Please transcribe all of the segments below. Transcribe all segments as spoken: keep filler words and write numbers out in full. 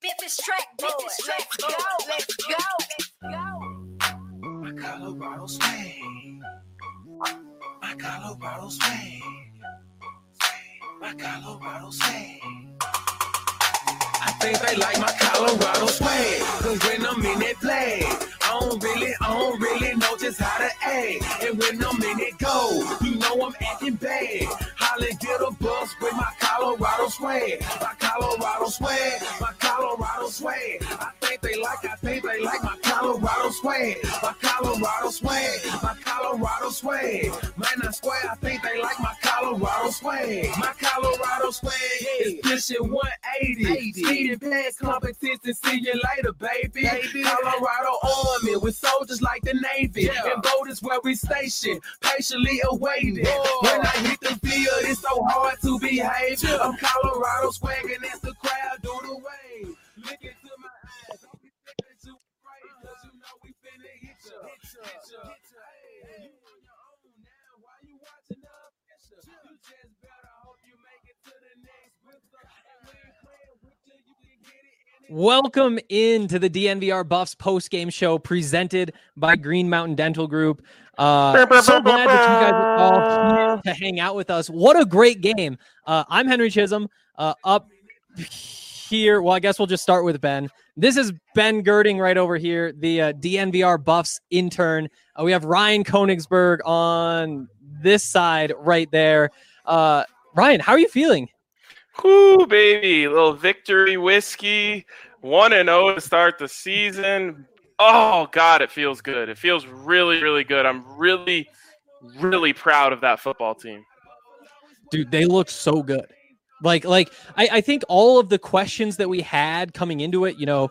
Bit this track, bit this track, let's go, let's go, let's go. My Colorado swag, my Colorado swag, my Colorado swag. I think they like my Colorado swag, cause when I'm in that flag, I don't really, I don't really know just how to act. And when I'm in it go, you know I'm acting bad. Holla, get a bus with my Colorado swag, my Colorado swag, my Colorado swag. I think they like, I think they like my Colorado swag, my Colorado swag, my Colorado swag. Man, I swear, I think they like my Colorado swag, my Colorado swag is pushing one eighty. Speeding past competition, see you later, baby. baby. Colorado Army with soldiers like the Navy, yeah. And voters where we stationed, patiently awaiting. Whoa. When I hit the field, it's so hard to behave. Yeah. I'm Colorado swagging as the crowd do the wave. Look into my eyes, don't be thinking too afraid, cause you know we finna hit ya, hit ya, hit ya. Hey, you on your own now, why you watching the picture? You just better hope you make it to the next winter. And when playing with you, you can get it. Welcome into the D N V R Buffs post-game show presented by Green Mountain Dental Group. Uh, so glad that you guys are all here to hang out with us. What a great game. Uh, I'm Henry Chisholm. Uh, up here, well, I guess we'll just start with Ben. This is Ben Girding right over here, the uh, D N V R Buffs intern. Uh, we have Ryan Konigsberg on this side right there. Uh, Ryan, how are you feeling? Whoo, baby, little victory whiskey, one and oh to start the season. Oh, God, it feels good. It feels really, really good. I'm really, really proud of that football team. Dude, they look so good. Like, like I, I think all of the questions that we had coming into it, you know,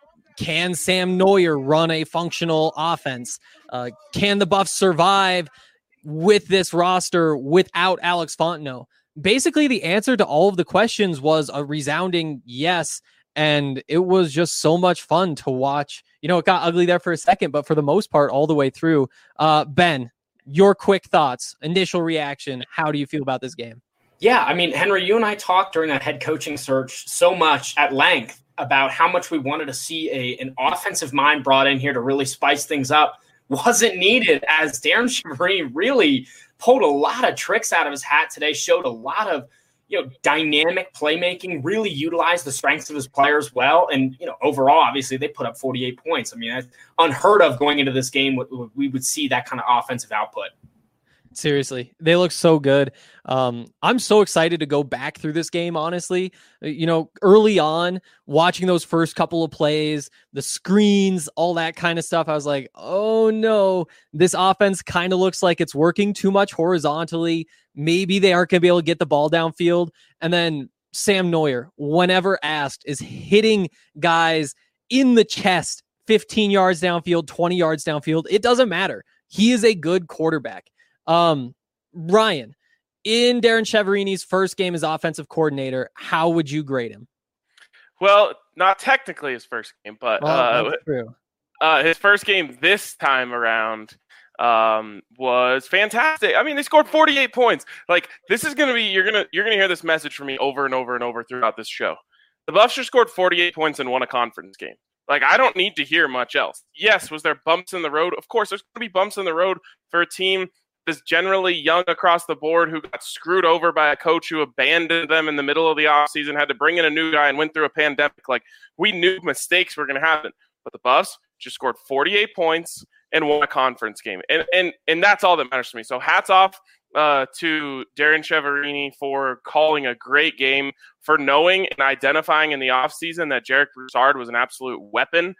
can Sam Neuer run a functional offense? Uh, can the Buffs survive with this roster without Alex Fontenot? Basically, the answer to all of the questions was a resounding yes, and it was just so much fun to watch. You know, it got ugly there for a second, but for the most part, all the way through. Uh, Ben, your quick thoughts, initial reaction, how do you feel about this game? Yeah, I mean, Henry, you and I talked during that head coaching search so much at length about how much we wanted to see a an offensive mind brought in here to really spice things up. Wasn't needed, as Darren Chiaverini really pulled a lot of tricks out of his hat today, showed a lot of, you know, dynamic playmaking, really utilized the strengths of his players well. And, you know, overall, obviously they put up forty-eight points. I mean, that's unheard of going into this game. We would see that kind of offensive output. Seriously, they look so good. Um, I'm so excited to go back through this game, honestly. You know, early on, watching those first couple of plays, the screens, all that kind of stuff, I was like, oh no, this offense kind of looks like it's working too much horizontally. Maybe they aren't going to be able to get the ball downfield. And then Sam Neuer, whenever asked, is hitting guys in the chest, fifteen yards downfield, twenty yards downfield. It doesn't matter. He is a good quarterback. Um, Ryan, in Darren Chiaverini's first game as offensive coordinator, how would you grade him? Well, not technically his first game, but oh, uh, that's true. Uh, his first game this time around um, was fantastic. I mean, they scored forty-eight points. Like, this is going to be, you're going to, you're going to hear this message from me over and over and over throughout this show. The Buffs just scored forty-eight points and won a conference game. Like, I don't need to hear much else. Yes, was there bumps in the road? Of course, there's going to be bumps in the road for a team is generally young across the board who got screwed over by a coach who abandoned them in the middle of the offseason, had to bring in a new guy and went through a pandemic. Like, we knew mistakes were going to happen. But the Buffs just scored forty-eight points and won a conference game. And and and that's all that matters to me. So hats off uh, to Darren Chiaverini for calling a great game, for knowing and identifying in the offseason that Jarek Broussard was an absolute weapon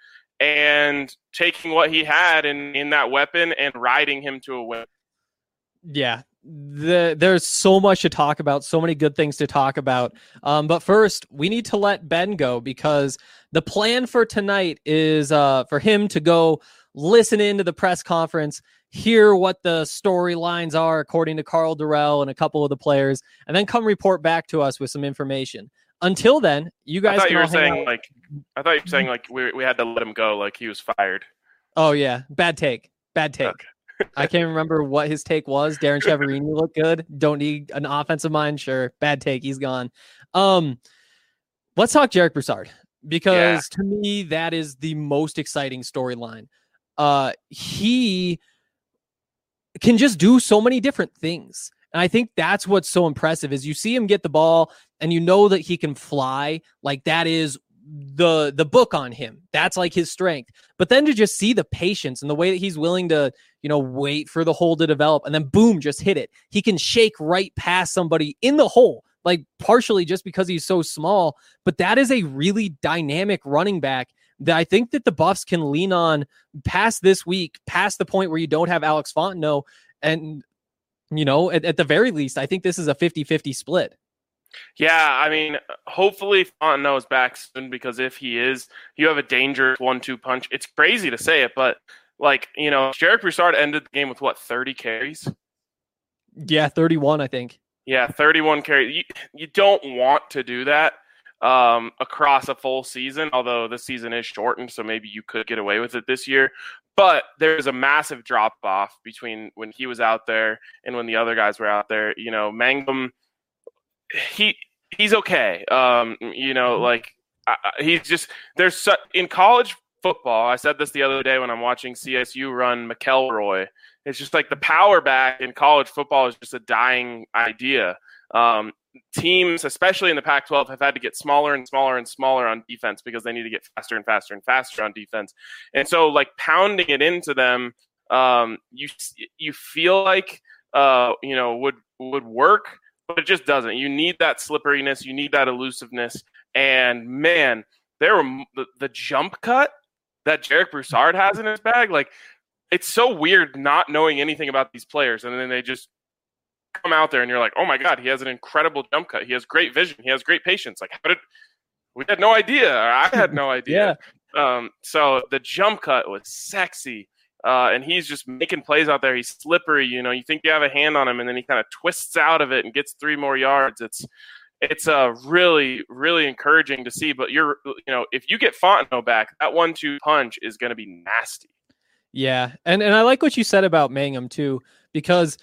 and taking what he had in, in that weapon and riding him to a win. Yeah, the, there's so much to talk about, so many good things to talk about. Um, but first, we need to let Ben go because the plan for tonight is uh, for him to go listen into the press conference, hear what the storylines are according to Carl Durrell and a couple of the players, and then come report back to us with some information. Until then, you guys. I thought can you were all hang saying out. like I thought you were saying like we we had to let him go, like he was fired. Oh yeah, bad take, bad take. Okay. I can't remember what his take was. Darren Chiaverini looked good. Don't need an offensive mind. Sure. Bad take. He's gone. Um, let's talk Jarek Broussard. because yeah. to me, that is the most exciting storyline. Uh, he can just do so many different things. And I think that's what's so impressive is you see him get the ball and you know that he can fly. Like that is the the book on him. That's like his strength. But then to just see the patience and the way that he's willing to, you know, wait for the hole to develop and then boom, just hit it. He can shake right past somebody in the hole, like partially just because he's so small. But that is a really dynamic running back that I think that the Buffs can lean on past this week, past the point where you don't have Alex Fontenot. And, you know, at, at the very least, I think this is a fifty-fifty split. Yeah, I mean, hopefully Fontenot is back soon, because if he is, you have a dangerous one two punch. It's crazy to say it, but, like, you know, Jarek Broussard ended the game with, what, thirty carries? Yeah, thirty-one, I think. Yeah, thirty-one carries. You, you don't want to do that um, across a full season, although the season is shortened, so maybe you could get away with it this year. But there's a massive drop-off between when he was out there and when the other guys were out there. You know, Mangum, he he's okay. Um, you know, like uh, he's just there's su- in college football. I said this the other day when I'm watching C S U run McElroy. It's just like the power back in college football is just a dying idea. Um, teams, especially in the Pac twelve, have had to get smaller and smaller and smaller on defense because they need to get faster and faster and faster on defense. And so, like pounding it into them, um, you you feel like uh, you know would would work. But it just doesn't. You need that slipperiness. You need that elusiveness. And, man, there were the, the jump cut that Jarek Broussard has in his bag. Like, it's so weird not knowing anything about these players. And then they just come out there and you're like, oh, my God, he has an incredible jump cut. He has great vision. He has great patience. Like, how did – we had no idea. Or I had no idea. yeah. Um, so the jump cut was sexy. Uh, and he's just making plays out there. He's slippery. You know, you think you have a hand on him, and then he kind of twists out of it and gets three more yards. It's it's uh, really, really encouraging to see. But you're, you know, if you get Fontenot back, that one two punch is going to be nasty. Yeah, and and I like what you said about Mangum too, because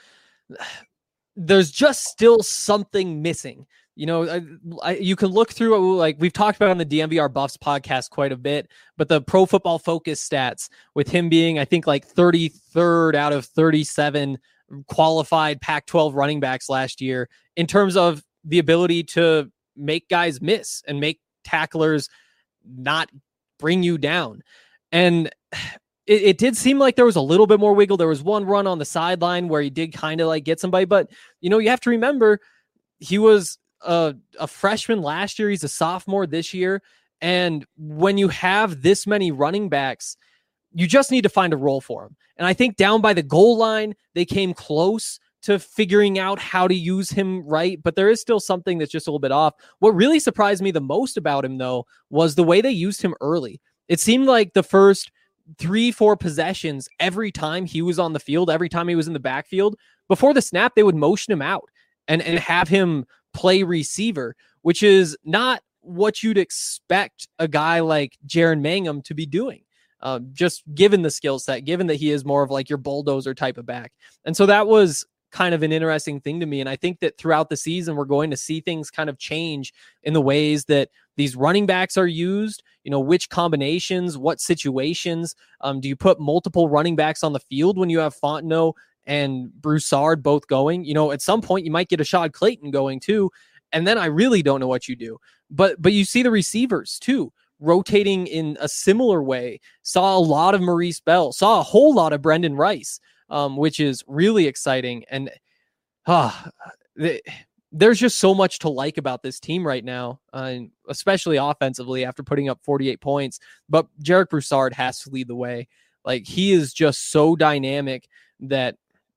there's just still something missing. You know, I, I, you can look through, like we've talked about on the D M V R Buffs podcast quite a bit, but the Pro Football Focus stats with him being, I think, like thirty-third out of thirty-seven qualified Pac twelve running backs last year in terms of the ability to make guys miss and make tacklers not bring you down. And it, it did seem like there was a little bit more wiggle. There was one run on the sideline where he did kind of like get somebody, but, you know, you have to remember he was A, a freshman last year. He's a sophomore this year. And when you have this many running backs, you just need to find a role for him. And I think down by the goal line, they came close to figuring out how to use him right. But there is still something that's just a little bit off. What really surprised me the most about him, though, was the way they used him early. It seemed like the first three, four possessions, every time he was on the field, every time he was in the backfield, before the snap, they would motion him out and, and have him play receiver, which is not what you'd expect a guy like Jaren Mangum to be doing, uh, just given the skill set, given that he is more of like your bulldozer type of back. And so that was kind of an interesting thing to me. And I think that throughout the season, we're going to see things kind of change in the ways that these running backs are used, you know, which combinations, what situations. Um, do you put multiple running backs on the field when you have Fontenot and Broussard both going? You know, at some point you might get Ashad Clayton going too. And then I really don't know what you do. But but you see the receivers too, rotating in a similar way. Saw a lot of Maurice Bell, saw a whole lot of Brendan Rice, um, which is really exciting. And uh, the, there's just so much to like about this team right now, uh, especially offensively after putting up forty-eight points. But Jarek Broussard has to lead the way. Like, he is just so dynamic that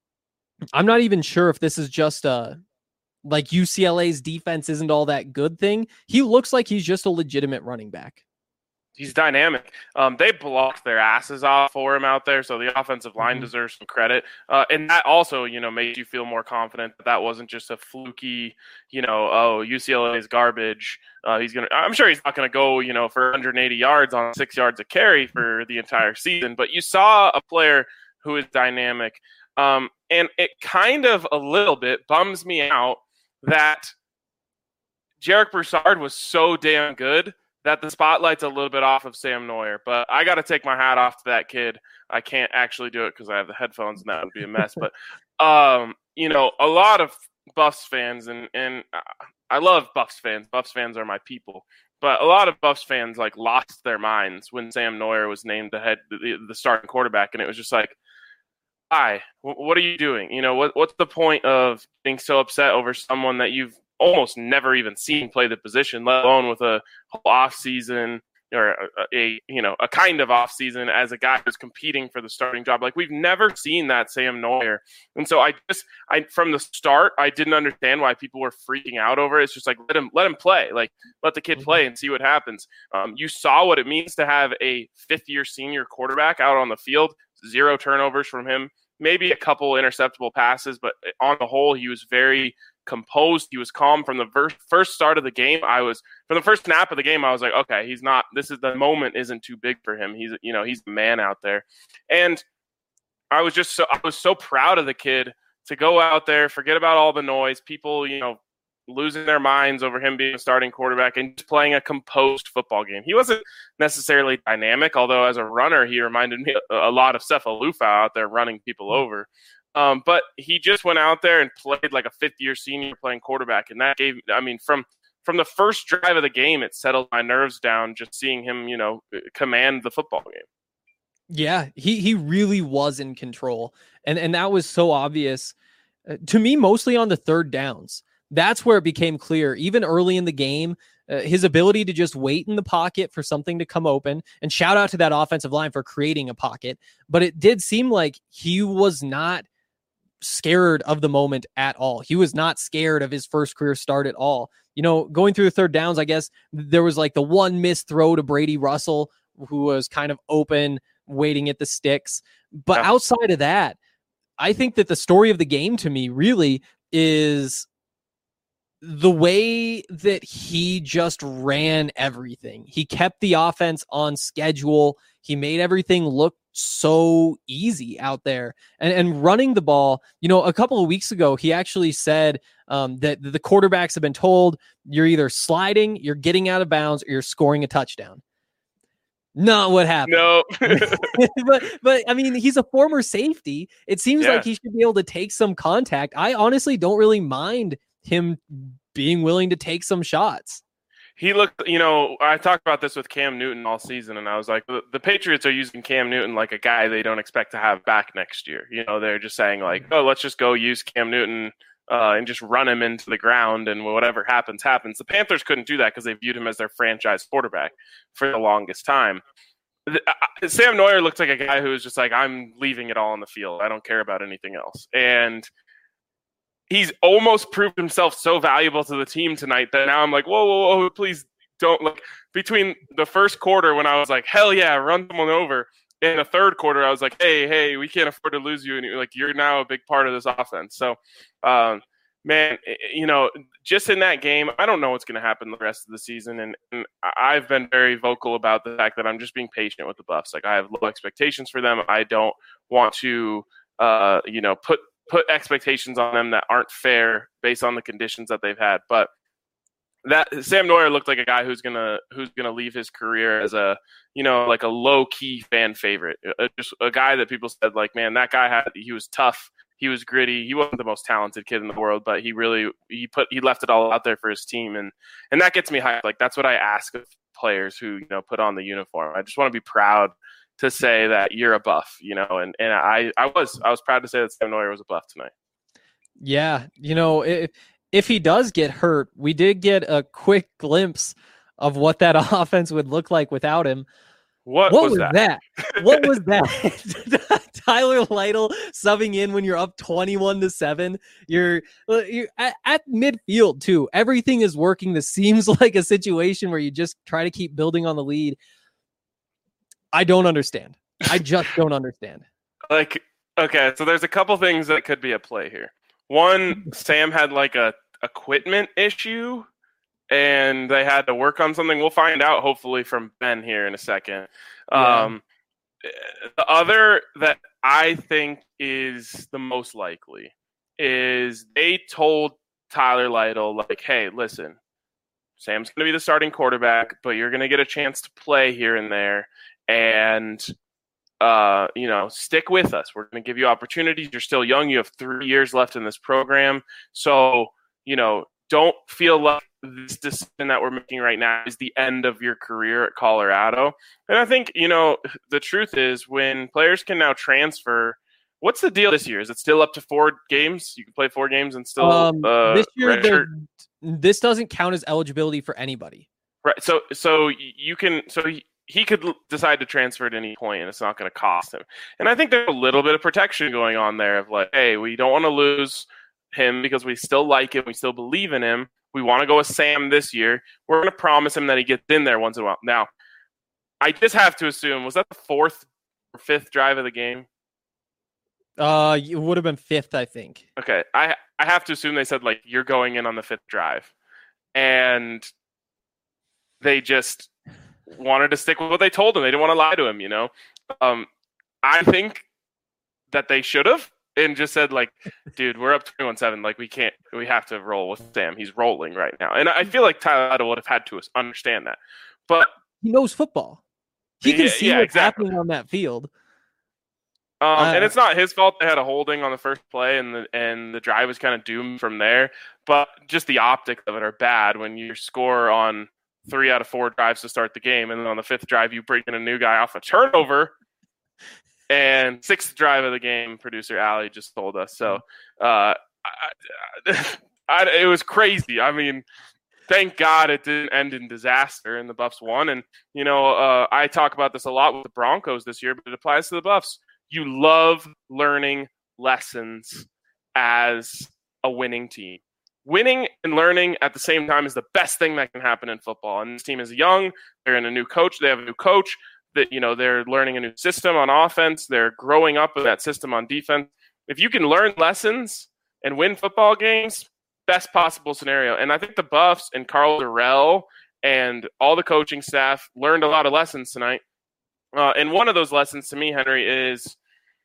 I'm not even sure if this is just a, like, U C L A's defense isn't all that good thing. He looks like he's just a legitimate running back. He's dynamic. Um, they blocked their asses off for him out there, so the offensive line mm-hmm. deserves some credit. Uh, and that also, you know, made you feel more confident that that wasn't just a fluky, you know, oh, U C L A is garbage. Uh, he's gonna. I'm sure he's not going to go, you know, for one hundred eighty yards on six yards of carry for the entire season. But you saw a player who is dynamic. Um, and it kind of a little bit bums me out that Jarek Broussard was so damn good that the spotlight's a little bit off of Sam Neuer. But I got to take my hat off to that kid. I can't actually do it because I have the headphones and that would be a mess. But, um, you know, a lot of Buffs fans, and, and I love Buffs fans. Buffs fans are my people. But a lot of Buffs fans, like, lost their minds when Sam Neuer was named the head, the, the starting quarterback. And it was just like, why? What are you doing? You know, what what's the point of being so upset over someone that you've almost never even seen play the position, let alone with a whole off season or a, a you know a kind of off season as a guy who's competing for the starting job? Like, we've never seen that Sam Neuer, and so I just I from the start I didn't understand why people were freaking out over it. It's just like, let him let him play, like let the kid play and see what happens. Um, you saw what it means to have a fifth year senior quarterback out on the field. Zero turnovers from him, maybe a couple interceptable passes, but on the whole, he was very composed. He was calm from the ver- first start of the game. I was from the first snap of the game. I was like, okay, he's not. This is the moment isn't too big for him. He's you know he's the man out there, and I was just so I was so proud of the kid to go out there, forget about all the noise, people you know losing their minds over him being a starting quarterback and just playing a composed football game. He wasn't necessarily dynamic, although as a runner, he reminded me a lot of Cephalufau out there running people over. Um, but he just went out there and played like a fifth-year senior playing quarterback, and that gave, I mean, from from the first drive of the game, it settled my nerves down just seeing him, you know, command the football game. Yeah, he he really was in control, and and that was so obvious uh, to me, mostly on the third downs. That's where it became clear, even early in the game, uh, his ability to just wait in the pocket for something to come open. And shout out to that offensive line for creating a pocket. But it did seem like he was not scared of the moment at all. He was not scared of his first career start at all. You know, going through the third downs, I guess there was like the one missed throw to Brady Russell, who was kind of open, waiting at the sticks. But yeah. Outside of that, I think that the story of the game to me really is the way that he just ran everything. He kept the offense on schedule. He made everything look so easy out there. And, and running the ball, you know, a couple of weeks ago, he actually said um, that the quarterbacks have been told you're either sliding, you're getting out of bounds, or you're scoring a touchdown. Not what happened. No. but, but I mean, he's a former safety. It seems yeah. like he should be able to take some contact. I honestly don't really mind him being willing to take some shots. He looked, you know, I talked about this with Cam Newton all season, and I was like, the, the Patriots are using Cam Newton like a guy they don't expect to have back next year. You know, they're just saying like, oh, let's just go use Cam Newton uh, and just run him into the ground, and whatever happens, happens. The Panthers couldn't do that because they viewed him as their franchise quarterback for the longest time. The, uh, Sam Neuer looked like a guy who was just like, I'm leaving it all on the field. I don't care about anything else. And he's almost proved himself so valuable to the team tonight that now I'm like, whoa, whoa, whoa, please don't look. Between the first quarter when I was like, hell yeah, run someone over, and the third quarter I was like, hey, hey, we can't afford to lose you, and you're like, you're now a big part of this offense. So, um, man, you know, just in that game, I don't know what's going to happen the rest of the season, and, and I've been very vocal about the fact that I'm just being patient with the Buffs. Like, I have low expectations for them. I don't want to, uh, you know, put put expectations on them that aren't fair based on the conditions that they've had. But that Sam Neuer looked like a guy who's gonna who's gonna leave his career as a, you know, like a low key fan favorite, a, just a guy that people said like, man, that guy had he was tough, he was gritty, he wasn't the most talented kid in the world, but he really he put he left it all out there for his team, and and that gets me hyped. Like, that's what I ask of players who, you know, put on the uniform. I just want to be proud to say that you're a Buff, you know, and, and I, I was I was proud to say that Sam Neuer was a Buff tonight. Yeah, you know, if, if he does get hurt, we did get a quick glimpse of what that offense would look like without him. What, what was, was that? that? What was that? Tyler Lytle subbing in when you're up twenty-one to seven. You're you're at, at midfield too. Everything is working. This seems like a situation where you just try to keep building on the lead. I don't understand. I just don't understand. Like, okay, so there's a couple things that could be at play here. One, Sam had like a equipment issue, and they had to work on something. We'll find out, hopefully, from Ben here in a second. Yeah. Um, the other that I think is the most likely is they told Tyler Lytle, like, hey, listen, Sam's going to be the starting quarterback, but you're going to get a chance to play here and there. And, uh, you know, stick with us. We're going to give you opportunities. You're still young. You have three years left in this program. So, you know, don't feel like this decision that we're making right now is the end of your career at Colorado. And I think, you know, the truth is when players can now transfer, what's the deal this year? Is it still up to four games? You can play four games and still um, uh, this year. redshirt? This doesn't count as eligibility for anybody. Right. So, so you can, so he, he could decide to transfer at any point and it's not going to cost him. And I think there's a little bit of protection going on there of like, hey, we don't want to lose him because we still like him. We still believe in him. We want to go with Sam this year. We're going to promise him that he gets in there once in a while. Now, I just have to assume, was that the fourth or fifth drive of the game? Uh, it would have been fifth, I think. Okay. I, I have to assume they said, like, you're going in on the fifth drive. And they just wanted to stick with what they told him. They didn't want to lie to him, you know? Um, I think that they should have. And just said, like, dude, we're up twenty-one seven. Like, we can't, we have to roll with Sam. He's rolling right now. And I feel like Tyler Idle would have had to understand that. But he knows football. He can yeah, see yeah, what's exactly. happening on that field. Um, uh, and it's not his fault they had a holding on the first play, and the and the drive was kind of doomed from there. But just the optics of it are bad when you score on three out of four drives to start the game, and then on the fifth drive you bring in a new guy off a turnover. And sixth drive of the game, producer Allie just told us. So uh, I, I, it was crazy. I mean, thank God it didn't end in disaster and the Buffs won. And, you know, uh, I talk about this a lot with the Broncos this year, but it applies to the Buffs. You love learning lessons as a winning team. Winning and learning at the same time is the best thing that can happen in football. And this team is young. They're in a new coach. They have a new coach. That, you know, they're learning a new system on offense. They're growing up with that system on defense. If you can learn lessons and win football games, best possible scenario. And I think the Buffs and Carl Durrell and all the coaching staff learned a lot of lessons tonight. Uh, and one of those lessons to me, Henry, is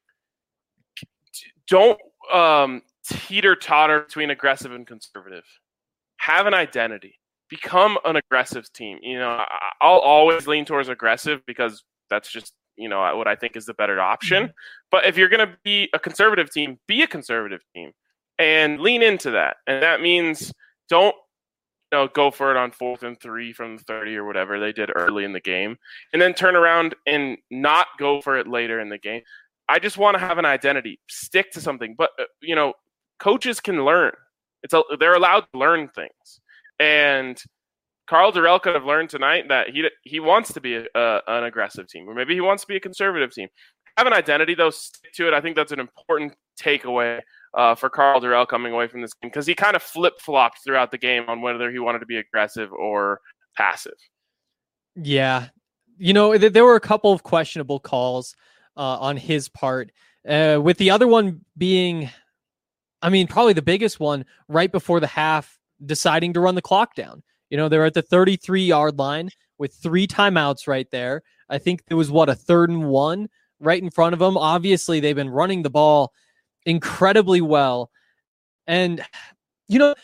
don't um, teeter-totter between aggressive and conservative. Have an identity. Become an aggressive team. You know, I'll always lean towards aggressive because that's just, you know, what I think is the better option. Mm-hmm. But if you're going to be a conservative team, be a conservative team and lean into that. And that means don't, you know, go for it on fourth and three from the thirty or whatever they did early in the game, and then turn around and not go for it later in the game. I just want to have an identity, stick to something. But, uh, you know, coaches can learn. It's a, they're allowed to learn things. And Carl Durrell could have learned tonight that he he wants to be a, a, an aggressive team, or maybe he wants to be a conservative team. Have an identity, though, stick to it. I think that's an important takeaway uh, for Carl Durrell coming away from this game, because he kind of flip-flopped throughout the game on whether he wanted to be aggressive or passive. Yeah. You know, th- there were a couple of questionable calls uh, on his part, uh, with the other one being, I mean, probably the biggest one right before the half, deciding to run the clock down. You know, they're at the thirty-three yard line with three timeouts right there. I think there was what, a third and one right in front of them. Obviously, they've been running the ball incredibly well. And, you know,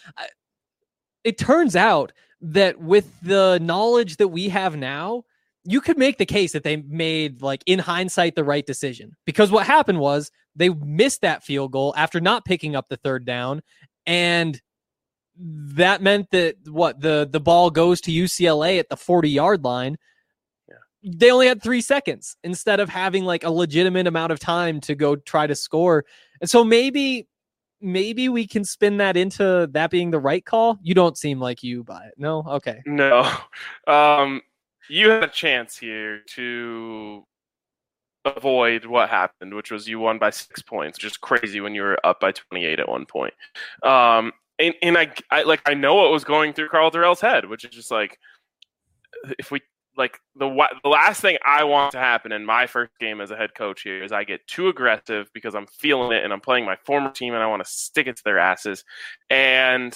it turns out that with the knowledge that we have now, you could make the case that they made, like, in hindsight, the right decision. Because what happened was they missed that field goal after not picking up the third down, and that meant that what the, the ball goes to U C L A at the forty yard line. Yeah. They only had three seconds instead of having like a legitimate amount of time to go try to score. And so maybe, maybe we can spin that into that being the right call. You don't seem like you buy it. No. Okay. No. Um, you had a chance here to avoid what happened, which was you won by six points, which is crazy when you were up by twenty-eight at one point. Um, And, and I, I like I know what was going through Carl Durrell's head, which is just like, if we like the the last thing I want to happen in my first game as a head coach here is I get too aggressive because I'm feeling it and I'm playing my former team and I want to stick it to their asses, and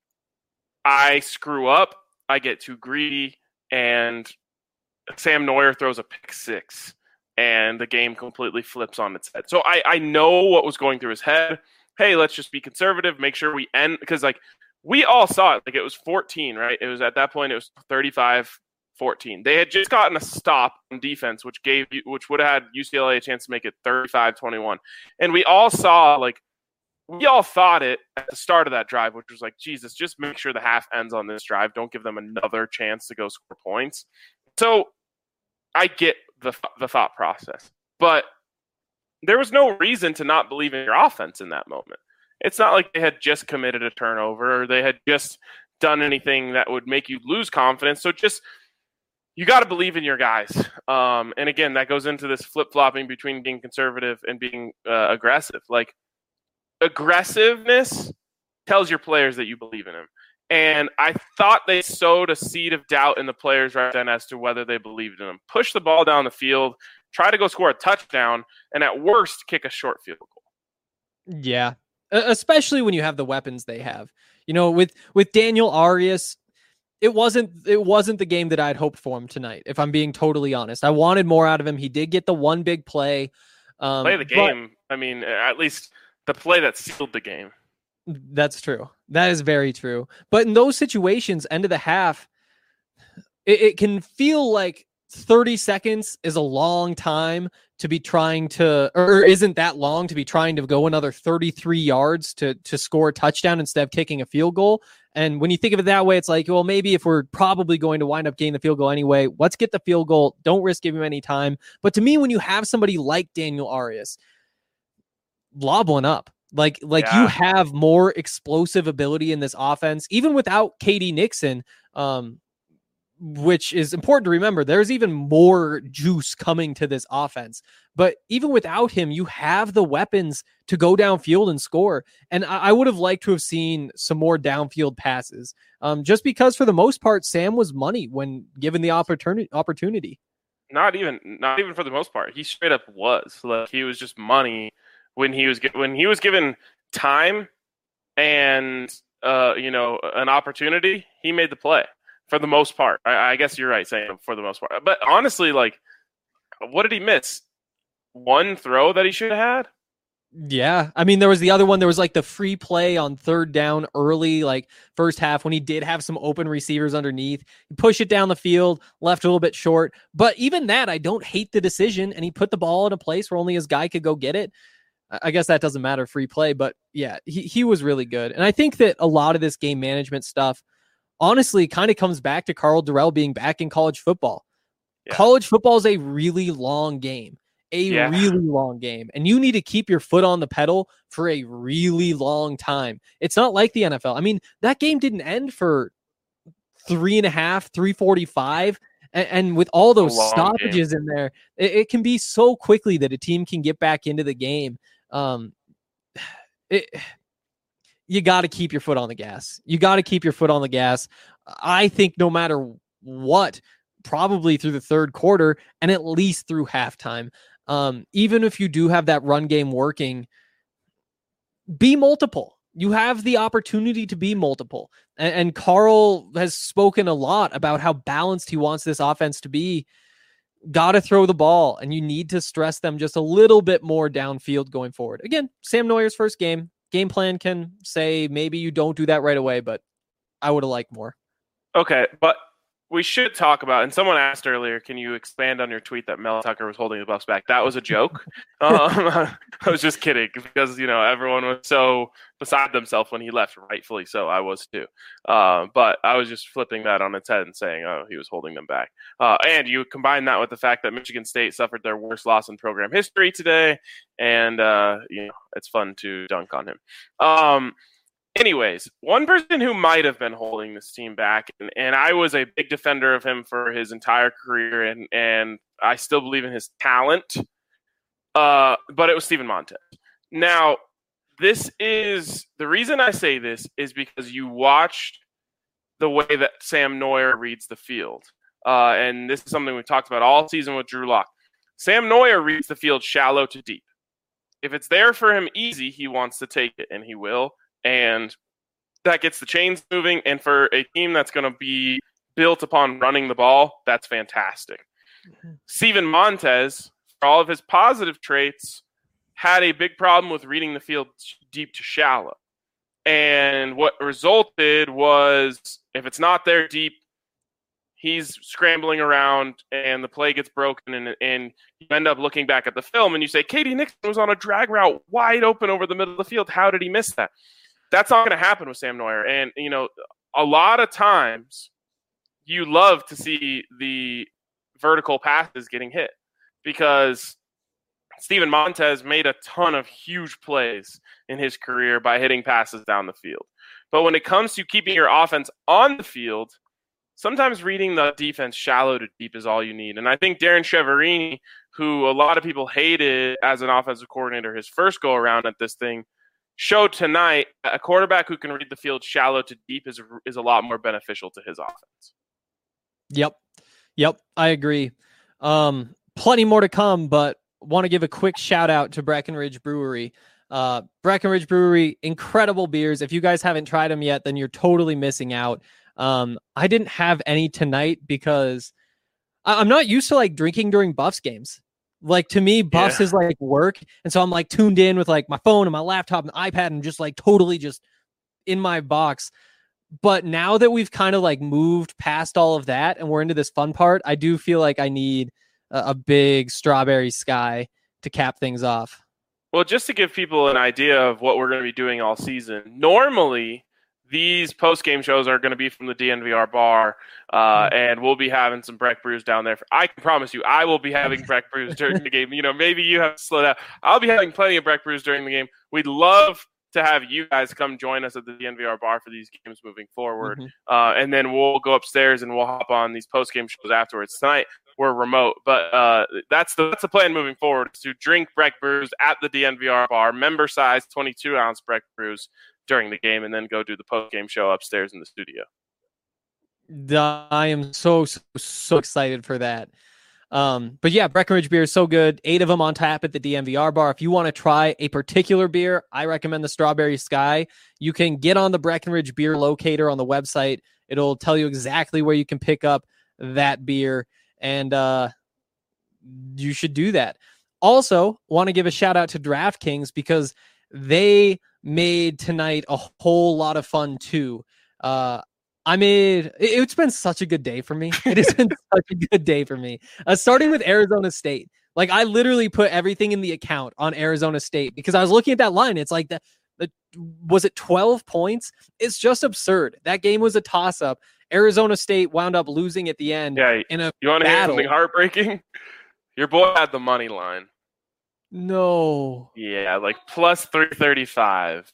I screw up. I get too greedy, and Sam Neuer throws a pick six, and the game completely flips on its head. So I I know what was going through his head. Hey, let's just be conservative, make sure we end, because like we all saw it. Like, it was fourteen, right? It was at that point, it was thirty-five fourteen. They had just gotten a stop on defense, which gave you, which would have had U C L A a chance to make it thirty-five twenty-one. And we all saw, like, we all thought it at the start of that drive, which was like, Jesus, just make sure the half ends on this drive. Don't give them another chance to go score points. So I get the the thought process, but there was no reason to not believe in your offense in that moment. It's not like they had just committed a turnover or they had just done anything that would make you lose confidence. So just, you got to believe in your guys. Um, and again, that goes into this flip-flopping between being conservative and being uh, aggressive. Like, aggressiveness tells your players that you believe in them. And I thought they sowed a seed of doubt in the players right then as to whether they believed in them. Push the ball down the field, try to go score a touchdown, and at worst, kick a short field goal. Yeah, especially when you have the weapons they have. You know, with with Daniel Arias, it wasn't it wasn't the game that I'd hoped for him tonight, if I'm being totally honest. I wanted more out of him. He did get the one big play. Um, play the game. But, I mean, at least the play that sealed the game. That's true. That is very true. But in those situations, end of the half, it, it can feel like thirty seconds is a long time to be trying to, or isn't that long to be trying to go another thirty-three yards to, to score a touchdown instead of kicking a field goal. And when you think of it that way, it's like, well, maybe if we're probably going to wind up getting the field goal anyway, let's get the field goal. Don't risk giving him any time. But to me, when you have somebody like Daniel Arias, lob one up. Like, like yeah. you have more explosive ability in this offense, even without K D Nixon, um, which is important to remember. There's even more juice coming to this offense. But even without him, you have the weapons to go downfield and score. And I, I would have liked to have seen some more downfield passes, um, just because for the most part, Sam was money when given the opportunity. opportunity. Not even, not even for the most part. He straight up was. Like, he was just money. When he was when he was given time and uh, you know, an opportunity, he made the play for the most part. I, I guess you're right saying for the most part. But honestly, like, what did he miss? One throw that he should have had? Yeah. I mean, there was the other one. There was like the free play on third down early, like first half, when he did have some open receivers underneath. He pushed it down the field, left a little bit short. But even that, I don't hate the decision. And he put the ball in a place where only his guy could go get it. I guess that doesn't matter, free play, but yeah, he, he was really good. And I think that a lot of this game management stuff, honestly, kind of comes back to Karl Dorrell being back in college football. Yeah. College football is a really long game, a yeah. really long game. And you need to keep your foot on the pedal for a really long time. It's not like the N F L. I mean, that game didn't end for three and a half, three forty-five. And, and with all those stoppages game. in there, it, it can be so quickly that a team can get back into the game. Um, it, you got to keep your foot on the gas. You got to keep your foot on the gas. I think no matter what, probably through the third quarter and at least through halftime. Um, even if you do have that run game working, be multiple. You have the opportunity to be multiple. And, and Karl has spoken a lot about how balanced he wants this offense to be. Got to throw the ball, and you need to stress them just a little bit more downfield going forward. Again, Sam Neuer's first game. Game plan can say maybe you don't do that right away, but I would have liked more. Okay, but we should talk about, and someone asked earlier, can you expand on your tweet that Mel Tucker was holding the Buffs back? That was a joke. um, I was just kidding because, you know, everyone was so beside themselves when he left, rightfully so. I was too. Uh, but I was just flipping that on its head and saying, oh, he was holding them back. Uh, and you combine that with the fact that Michigan State suffered their worst loss in program history today, and, uh, you know, it's fun to dunk on him. Um, Anyways, one person who might have been holding this team back, and, and I was a big defender of him for his entire career, and, and I still believe in his talent, uh, but it was Steven Montez. Now, this is – the reason I say this is because you watched the way that Sam Neuer reads the field, uh, and this is something we talked about all season with Drew Lock. Sam Neuer reads the field shallow to deep. If it's there for him easy, he wants to take it, and he will. And that gets the chains moving. And for a team that's going to be built upon running the ball, that's fantastic. Mm-hmm. Steven Montez, for all of his positive traits, had a big problem with reading the field deep to shallow. And what resulted was, if it's not there deep, he's scrambling around and the play gets broken, and, and you end up looking back at the film and you say, K D Nixon was on a drag route wide open over the middle of the field. How did he miss that? That's not going to happen with Sam Neuer. And, you know, a lot of times you love to see the vertical passes getting hit because Steven Montez made a ton of huge plays in his career by hitting passes down the field. But when it comes to keeping your offense on the field, sometimes reading the defense shallow to deep is all you need. And I think Darren Chiaverini, who a lot of people hated as an offensive coordinator his first go around at this thing, showed tonight a quarterback who can read the field shallow to deep is is a lot more beneficial to his offense. Yep. Yep. I agree. Um, plenty more to come, but want to give a quick shout out to Breckenridge Brewery. Uh, Breckenridge Brewery, incredible beers. If you guys haven't tried them yet, then you're totally missing out. Um, I didn't have any tonight because I- I'm not used to like drinking during Buffs games. Like to me, Buffs Yeah. is like work. And so I'm like tuned in with like my phone and my laptop and iPad and just like totally just in my box. But now that we've kind of like moved past all of that and we're into this fun part, I do feel like I need a, a big strawberry sky to cap things off. Well, just to give people an idea of what we're going to be doing all season, normally these post-game shows are going to be from the D N V R bar, uh, and we'll be having some Breck Brews down there. I can promise you, I will be having Breck Brews during the game. You know, maybe you have to slow down. I'll be having plenty of Breck Brews during the game. We'd love to have you guys come join us at the D N V R bar for these games moving forward, Mm-hmm. uh, and then we'll go upstairs and we'll hop on these post-game shows afterwards. Tonight we're remote, but uh, that's the that's the plan moving forward, is to drink Breck Brews at the D N V R bar, member size twenty-two ounce Breck Brews during the game, and then go do the post-game show upstairs in the studio. I am so, so, so excited for that. Um, but yeah, Breckenridge beer is so good. Eight of them on tap at the D N V R bar. If you want to try a particular beer, I recommend the Strawberry Sky. You can get on the Breckenridge beer locator on the website. It'll tell you exactly where you can pick up that beer, and uh, you should do that. Also, want to give a shout out to DraftKings because they made tonight a whole lot of fun too. Uh, I made it, it's been such a good day for me. It has been such a good day for me. Uh, starting with Arizona State. Like I literally put everything in the account on Arizona State because I was looking at that line. It's like the, the was it twelve points? It's just absurd. That game was a toss up. Arizona State wound up losing at the end. Yeah, in a you want to hear battle. something heartbreaking? Your boy had the money line. No. Yeah, like plus three thirty-five.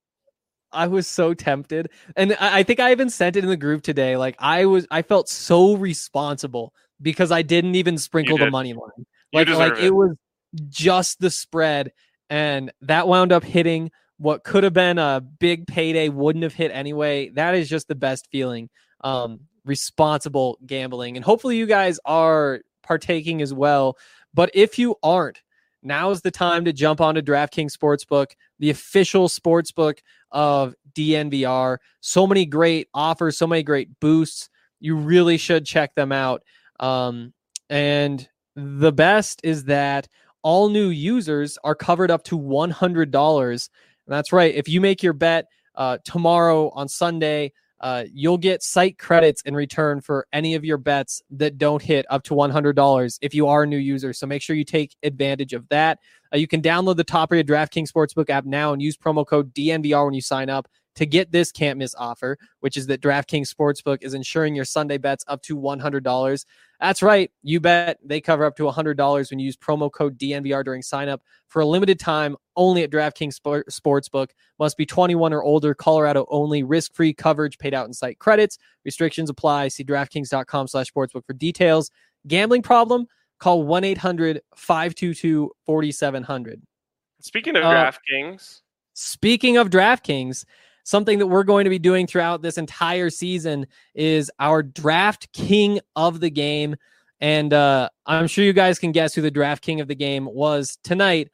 I was so tempted. And I, I think I even sent it in the group today. Like I was, I felt so responsible because I didn't even sprinkle You the did. money line. You Like, deserve like it. it was just the spread. And that wound up hitting what could have been a big payday, wouldn't have hit anyway. That is just the best feeling. Um, responsible gambling. And hopefully you guys are partaking as well. But if you aren't, now is the time to jump onto DraftKings Sportsbook, the official sportsbook of D N V R. So many great offers, so many great boosts. You really should check them out. Um, and the best is that all new users are covered up to one hundred dollars. And that's right. If you make your bet uh, tomorrow on Sunday, uh, you'll get site credits in return for any of your bets that don't hit up to one hundred dollars if you are a new user. So make sure you take advantage of that. Uh, you can download the top rated DraftKings Sportsbook app now and use promo code D N V R when you sign up to get this can't miss offer, which is that DraftKings Sportsbook is insuring your Sunday bets up to one hundred dollars. That's right. You bet they cover up to one hundred dollars when you use promo code D N V R during sign up for a limited time only at DraftKings Sport- Sportsbook. Must be twenty-one or older, Colorado only, risk-free coverage paid out in site credits. Restrictions apply. See DraftKings.com slash sportsbook for details. Gambling problem? Call one eight hundred five two two four seven zero zero. Speaking of Uh, DraftKings, Speaking of DraftKings, something that we're going to be doing throughout this entire season is our Draft King of the game. And uh, I'm sure you guys can guess who the Draft King of the game was tonight.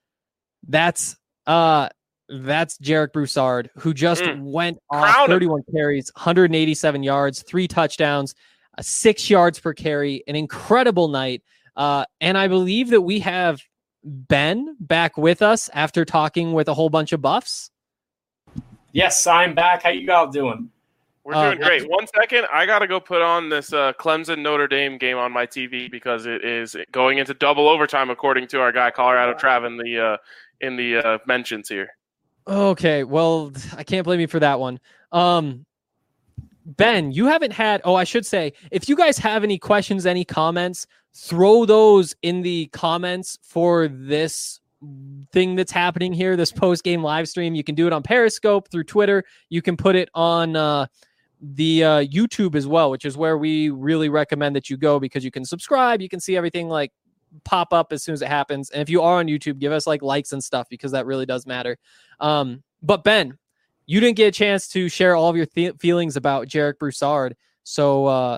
That's uh, that's Jarek Broussard, who just Mm. went Crown off him. thirty-one carries, one hundred eighty-seven yards, three touchdowns, uh, six yards per carry, an incredible night. Uh, and I believe that we have Ben back with us after talking with a whole bunch of buffs. Yes, I'm back. How you all doing? We're Uh, doing great. One second, I got to go put on this uh, Clemson Notre Dame game on my T V because it is going into double overtime, according to our guy Colorado Trav in the uh, in the uh, mentions here. Okay, well, I can't blame you for that one. Um, Ben, you haven't had, oh, I should say, if you guys have any questions, any comments, throw those in the comments for this thing that's happening here, this post-game live stream. You can do it on Periscope, through Twitter. You can put it on uh, the uh, YouTube as well, which is where we really recommend that you go because you can subscribe. You can see everything like pop up as soon as it happens. And if you are on YouTube, give us like likes and stuff because that really does matter. Um, but Ben, you didn't get a chance to share all of your th- feelings about Jarek Broussard. So uh,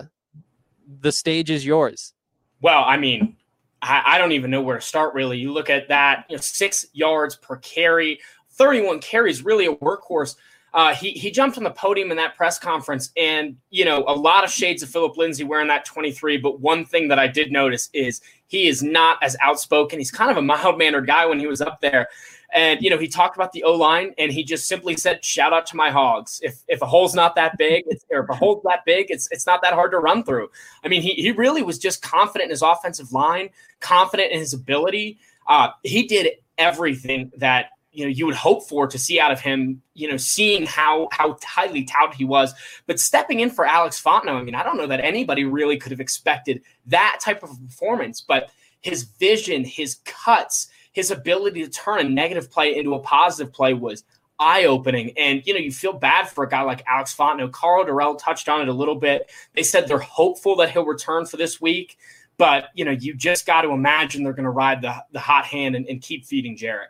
the stage is yours. Well, I mean, I, I don't even know where to start, really. You look at that, you know, six yards per carry, thirty-one carries, really a workhorse. Uh, he he jumped on the podium in that press conference, and, you know, a lot of shades of Philip Lindsay wearing that twenty-three. But one thing that I did notice is he is not as outspoken. He's kind of a mild-mannered guy when he was up there. And, you know, he talked about the O-line, and he just simply said, shout out to my hogs. If if a hole's not that big, it's, or if a hole's that big, it's it's not that hard to run through. I mean, he, he really was just confident in his offensive line, confident in his ability. Uh, he did everything that, you know, you would hope for to see out of him, you know, seeing how how highly touted he was. But stepping in for Alex Fontenot, I mean, I don't know that anybody really could have expected that type of performance. But his vision, his cuts, his ability to turn a negative play into a positive play was eye-opening. And, you know, you feel bad for a guy like Alex Fontenot. Karl Dorrell touched on it a little bit. They said they're hopeful that he'll return for this week. But, you know, you just got to imagine they're going to ride the, the hot hand and, and keep feeding Jarek.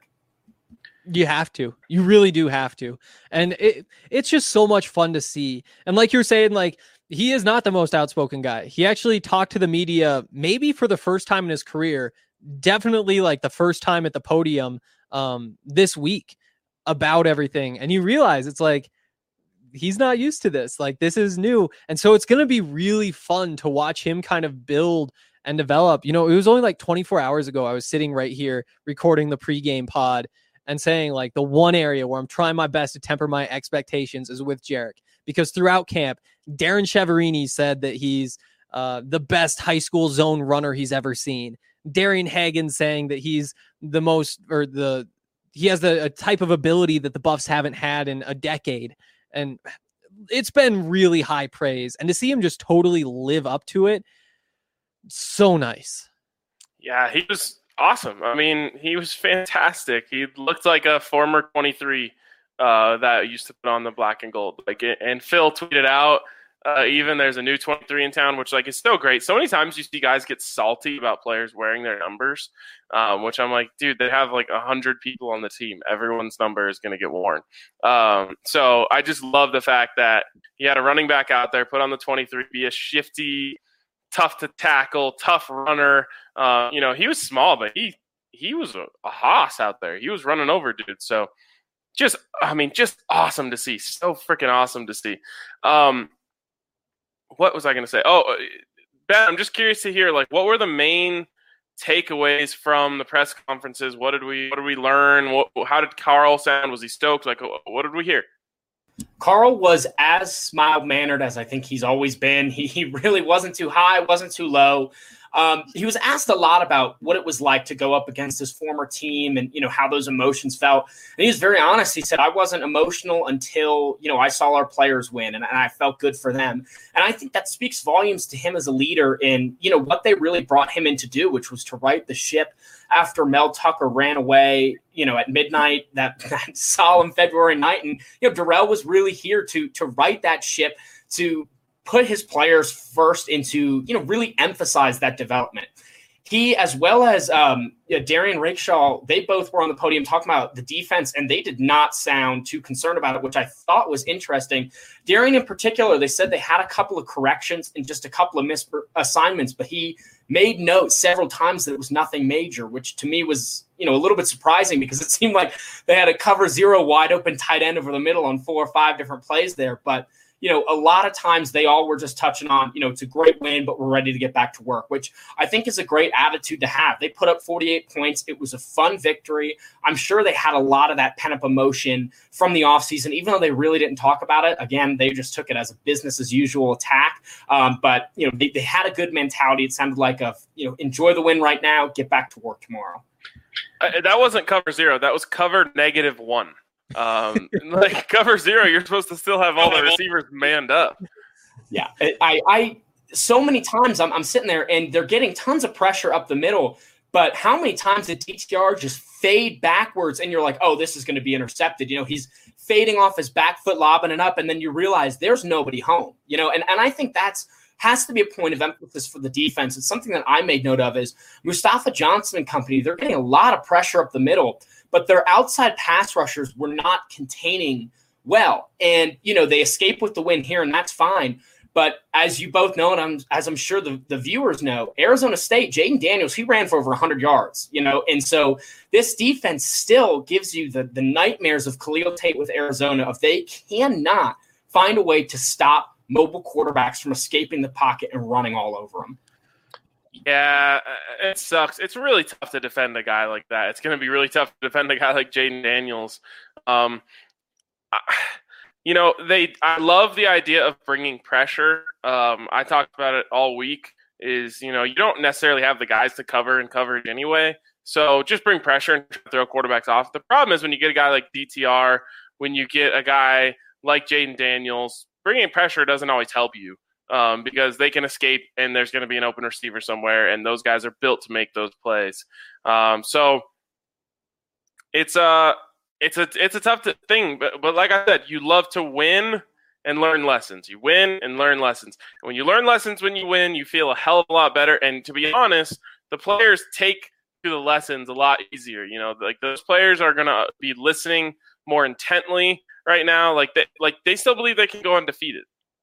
You have to. You really do have to. And it it's just so much fun to see. And like you're saying, like, he is not the most outspoken guy. He actually talked to the media maybe for the first time in his career, definitely like the first time at the podium um, this week about everything. And you realize it's like, he's not used to this. Like, this is new. And so it's going to be really fun to watch him kind of build and develop. You know, it was only like twenty-four hours ago. I was sitting right here recording the pregame pod and saying like the one area where I'm trying my best to temper my expectations is with Jarek, because throughout camp, Darren Cheverini said that he's uh, the best high school zone runner he's ever seen. Darian Hagan saying that he's the most, or the, he has the, a type of ability that the Buffs haven't had in a decade. And it's been really high praise. And to see him just totally live up to it, so nice. Yeah, he was awesome. I mean, he was fantastic. He looked like a former twenty-three uh, that used to put on the black and gold. Like, and Phil tweeted out, Uh, even there's a new twenty-three in town, which like is so great. So many times you see guys get salty about players wearing their numbers, um, which I'm like, dude, they have like a hundred people on the team. Everyone's number is going to get worn. Um, so I just love the fact that he had a running back out there, put on the twenty-three, be a shifty, tough to tackle, tough runner. Uh, you know, he was small, but he he was a, a hoss out there. He was running over dude. So just, I mean, just awesome to see. So freaking awesome to see. Um, What was I going to say? Oh, Ben, I'm just curious to hear, like, what were the main takeaways from the press conferences? What did we, what did we learn? What, how did Karl sound? Was he stoked? Like, what did we hear? Karl was as mild-mannered as I think he's always been. He, he really wasn't too high, wasn't too low. Um, he was asked a lot about what it was like to go up against his former team and, you know, how those emotions felt. And he was very honest. He said, I wasn't emotional until, you know, I saw our players win and, and I felt good for them. And I think that speaks volumes to him as a leader in, you know, what they really brought him in to do, which was to right the ship after Mel Tucker ran away, you know, at midnight that, that solemn February night. And, you know, Dorrell was really here to, to right that ship, to put his players first into, you know, really emphasize that development. He, as well as um, you know, Darian Rakeshaw, they both were on the podium talking about the defense, and they did not sound too concerned about it, which I thought was interesting. Darian in particular, they said they had a couple of corrections and just a couple of misassignments, but he made note several times that it was nothing major, which to me was, you know, a little bit surprising because it seemed like they had a cover zero wide open tight end over the middle on four or five different plays there. But you know, a lot of times they all were just touching on, you know, it's a great win, but we're ready to get back to work, which I think is a great attitude to have. They put up forty-eight points. It was a fun victory. I'm sure they had a lot of that pent-up emotion from the offseason, even though they really didn't talk about it. Again, they just took it as a business as usual attack. Um, but, you know, they, they had a good mentality. It sounded like a, you know, enjoy the win right now, get back to work tomorrow. Uh, that wasn't cover zero. That was cover negative one. Um, like cover zero, you're supposed to still have all the receivers manned up. Yeah, I, I, so many times I'm, I'm sitting there and they're getting tons of pressure up the middle, but how many times did D T R just fade backwards and you're like, oh, this is going to be intercepted. You know, he's fading off his back foot, lobbing it up, and then you realize there's nobody home, you know, and, and I think that's has to be a point of emphasis for the defense. It's something that I made note of is Mustafa Johnson and company, they're getting a lot of pressure up the middle, but their outside pass rushers were not containing well. And, you know, they escape with the win here, and that's fine. But as you both know, and I'm, as I'm sure the, the viewers know, Arizona State, Jaden Daniels, he ran for over one hundred yards, you know. And so this defense still gives you the, the nightmares of Khalil Tate with Arizona if they cannot find a way to stop mobile quarterbacks from escaping the pocket and running all over them. Yeah, it sucks. It's really tough to defend a guy like that. It's going to be really tough to defend a guy like Jaden Daniels. Um, you know, they. I love the idea of bringing pressure. Um, I talked about it all week. Is you know you don't necessarily have the guys to cover in coverage anyway, so just bring pressure and throw quarterbacks off. The problem is when you get a guy like D T R, when you get a guy like Jaden Daniels, bringing pressure doesn't always help you. Um, because they can escape and there's going to be an open receiver somewhere, and those guys are built to make those plays. Um, so it's a it's a it's a tough thing, but but like I said, you love to win and learn lessons. You win and learn lessons. And when you learn lessons when you win, you feel a hell of a lot better. And to be honest, the players take to the lessons a lot easier. You know, like those players are going to be listening more intently right now. Like they like they still believe they can go undefeated.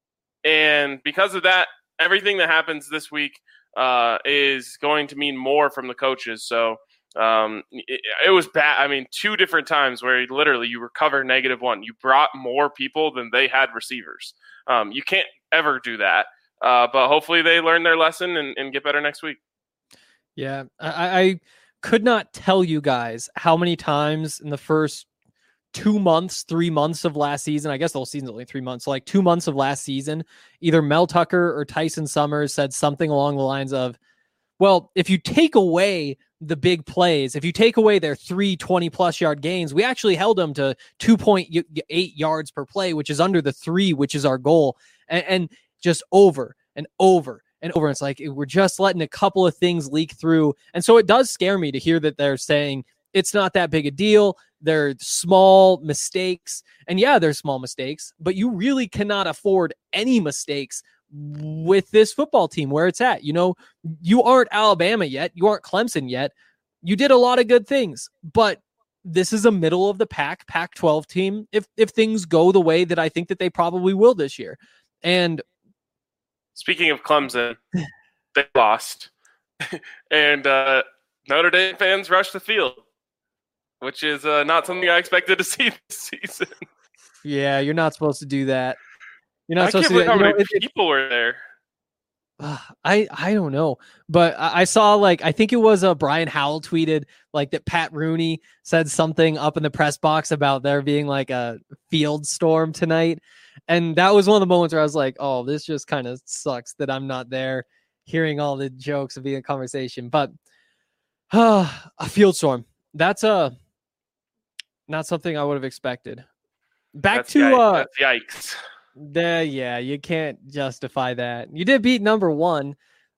And because of that, everything that happens this week uh, is going to mean more from the coaches. So um, it, it was bad. I mean, two different times where literally you recover negative one. You brought more people than they had receivers. Um, you can't ever do that. Uh, but hopefully they learn their lesson and, and get better next week. Yeah, I, I could not tell you guys how many times in the first two months, three months of last season, I guess the whole season's only three months, so like two months of last season, either Mel Tucker or Tyson Summers said something along the lines of, well, if you take away the big plays, if you take away their three twenty plus yard gains, we actually held them to two point eight yards per play, which is under the three, which is our goal. And, and just over and over and over. It's like, we're just letting a couple of things leak through. And so it does scare me to hear that they're saying it's not that big a deal. They're small mistakes. And yeah, they're small mistakes, but you really cannot afford any mistakes with this football team where it's at. You know, you aren't Alabama yet. You aren't Clemson yet. You did a lot of good things, but this is a middle of the pack Pac twelve team. If, if things go the way that I think that they probably will this year. And speaking of Clemson, they lost and uh, Notre Dame fans rushed the field, which is uh, not something I expected to see this season. Yeah, you're not supposed to do that. You're not I supposed can't to do believe that. how You know, many it, people were there. Uh, I I don't know, but I, I saw like I think it was uh, Brian Howell tweeted like that Pat Rooney said something up in the press box about there being like a field storm tonight, and that was one of the moments where I was like, oh, this just kind of sucks that I'm not there hearing all the jokes and being a conversation. But uh, a field storm, that's a uh, not something I would have expected. Back That's to yikes. uh, That's yikes. The, yeah, you can't justify that. You did beat number one,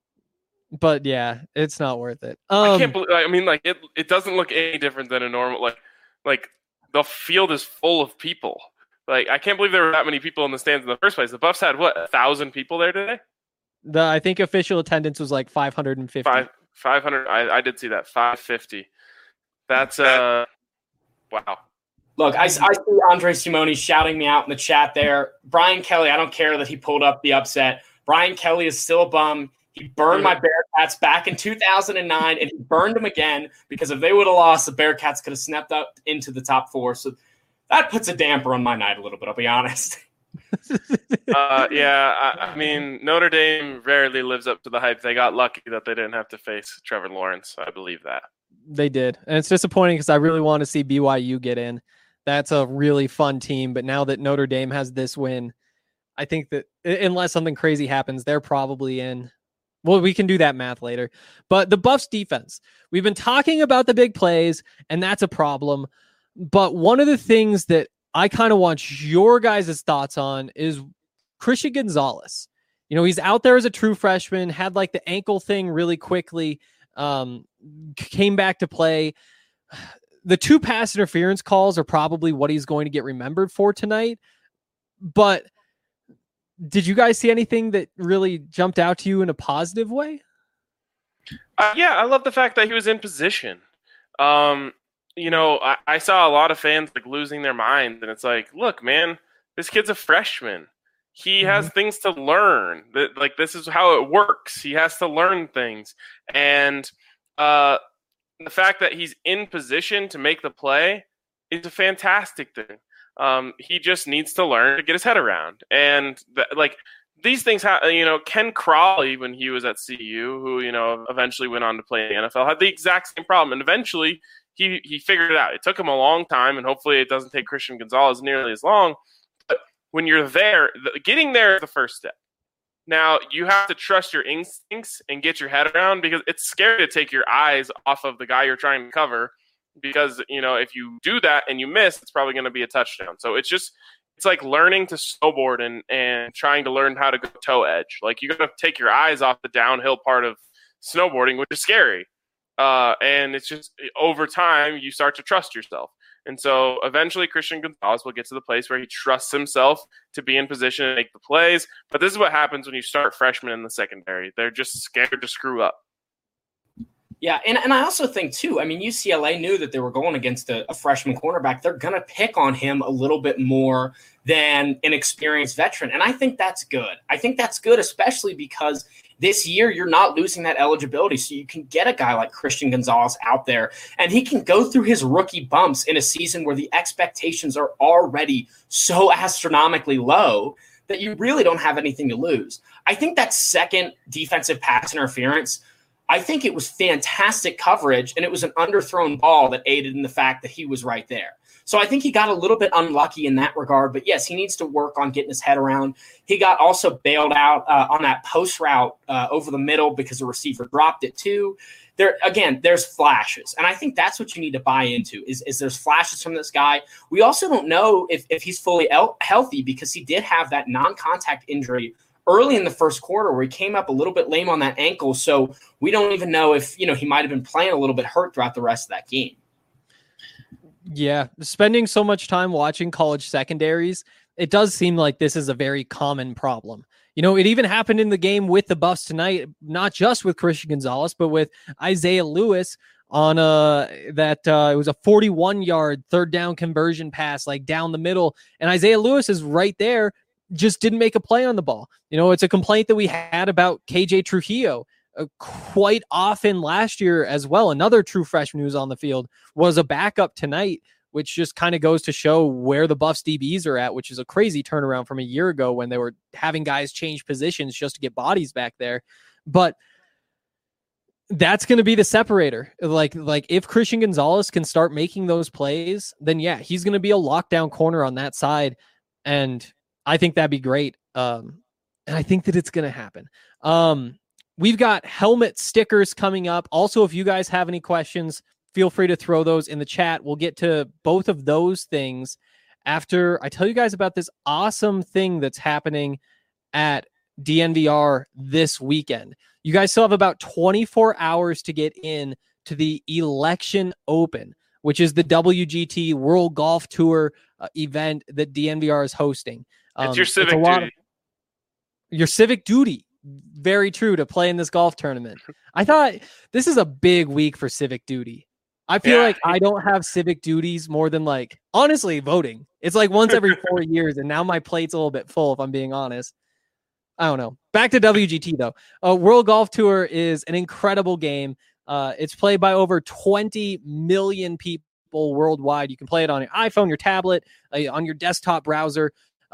but yeah, it's not worth it. Um, I can't believe. I mean, like it. It doesn't look any different than a normal. Like, like the field is full of people. Like, I can't believe there were that many people in the stands in the first place. The Buffs had what, a thousand people there today? The I think official attendance was like five hundred fifty. Five, five hundred. I, I did see that. Five fifty. That's uh, wow. Look, I, I see Andre Simone shouting me out in the chat there. Brian Kelly, I don't care that he pulled up the upset. Brian Kelly is still a bum. He burned my Bearcats back in two thousand nine, and he burned them again because if they would have lost, the Bearcats could have snapped up into the top four. So that puts a damper on my night a little bit, I'll be honest. uh, yeah, I, I mean, Notre Dame rarely lives up to the hype. They got lucky that they didn't have to face Trevor Lawrence. I believe that. They did. And it's disappointing because I really want to see B Y U get in. That's a really fun team. But now that Notre Dame has this win, I think that unless something crazy happens, they're probably in. Well, we can do that math later. But the Buffs defense, we've been talking about the big plays, and that's a problem. But one of the things that I kind of want your guys' thoughts on is Christian Gonzalez. You know, he's out there as a true freshman, had like the ankle thing really quickly, um, came back to play. The two pass interference calls are probably what he's going to get remembered for tonight. But did you guys see anything that really jumped out to you in a positive way? Uh, yeah, I love the fact that he was in position. Um, you know, I, I saw a lot of fans like losing their minds, and it's like, look, man, this kid's a freshman. He mm-hmm. has things to learn. That like this is how it works. He has to learn things, and uh, the fact that he's in position to make the play is a fantastic thing. Um, he just needs to learn to get his head around. And the, like these things, ha- you know, Ken Crawley, when he was at C U, who, you know, eventually went on to play in the N F L, had the exact same problem. And eventually he, he figured it out. It took him a long time, and hopefully it doesn't take Christian Gonzalez nearly as long. But when you're there, the, getting there is the first step. Now you have to trust your instincts and get your head around, because it's scary to take your eyes off of the guy you're trying to cover. Because, you know, if you do that and you miss, it's probably going to be a touchdown. So it's just, it's like learning to snowboard and, and trying to learn how to go toe edge. Like you got to take your eyes off the downhill part of snowboarding, which is scary. Uh, and it's just over time, you start to trust yourself. And so eventually Christian Gonzalez will get to the place where he trusts himself to be in position and make the plays. But this is what happens when you start freshmen in the secondary. They're just scared to screw up. Yeah, and, and I also think, too, I mean, U C L A knew that they were going against a, a freshman cornerback. They're going to pick on him a little bit more than an experienced veteran, and I think that's good. I think that's good, especially because this year you're not losing that eligibility, so you can get a guy like Christian Gonzalez out there, and he can go through his rookie bumps in a season where the expectations are already so astronomically low that you really don't have anything to lose. I think that second defensive pass interference, I think it was fantastic coverage, and it was an underthrown ball that aided in the fact that he was right there. So I think he got a little bit unlucky in that regard, but yes, he needs to work on getting his head around. He got also bailed out uh, on that post route uh, over the middle because the receiver dropped it too. There again, there's flashes, and I think that's what you need to buy into is, is there's flashes from this guy. We also don't know if, if he's fully el- healthy because he did have that non-contact injury early in the first quarter where he came up a little bit lame on that ankle. So we don't even know if, you know, he might've been playing a little bit hurt throughout the rest of that game. Yeah. Spending so much time watching college secondaries, it does seem like this is a very common problem. You know, it even happened in the game with the Buffs tonight, not just with Christian Gonzalez, but with Isaiah Lewis on uh that uh, it was a forty-one yard third down conversion pass, like down the middle. And Isaiah Lewis is right there, just didn't make a play on the ball. You know, it's a complaint that we had about K J Trujillo uh, quite often last year as well. Another true freshman who's on the field was a backup tonight, which just kind of goes to show where the Buffs D Bs are at, which is a crazy turnaround from a year ago when they were having guys change positions just to get bodies back there. But that's going to be the separator. Like, like if Christian Gonzalez can start making those plays, then yeah, he's going to be a lockdown corner on that side. And I think that'd be great. Um, and I think that it's going to happen. Um, we've got helmet stickers coming up. Also, if you guys have any questions, feel free to throw those in the chat. We'll get to both of those things after I tell you guys about this awesome thing that's happening at D N V R this weekend. You guys still have about twenty-four hours to get in to the Election Open, which is the W G T World Golf Tour uh, event that D N V R is hosting. Um, it's your civic it's duty. Of, your civic duty. Very true, to play in this golf tournament. I thought this is a big week for civic duty. I feel yeah. like I don't have civic duties more than, like, honestly, voting. It's like once every four years, and now my plate's a little bit full, if I'm being honest. I don't know. Back to W G T, though. Uh, World Golf Tour is an incredible game. Uh, it's played by over twenty million people worldwide. You can play it on your iPhone, your tablet, uh, on your desktop browser.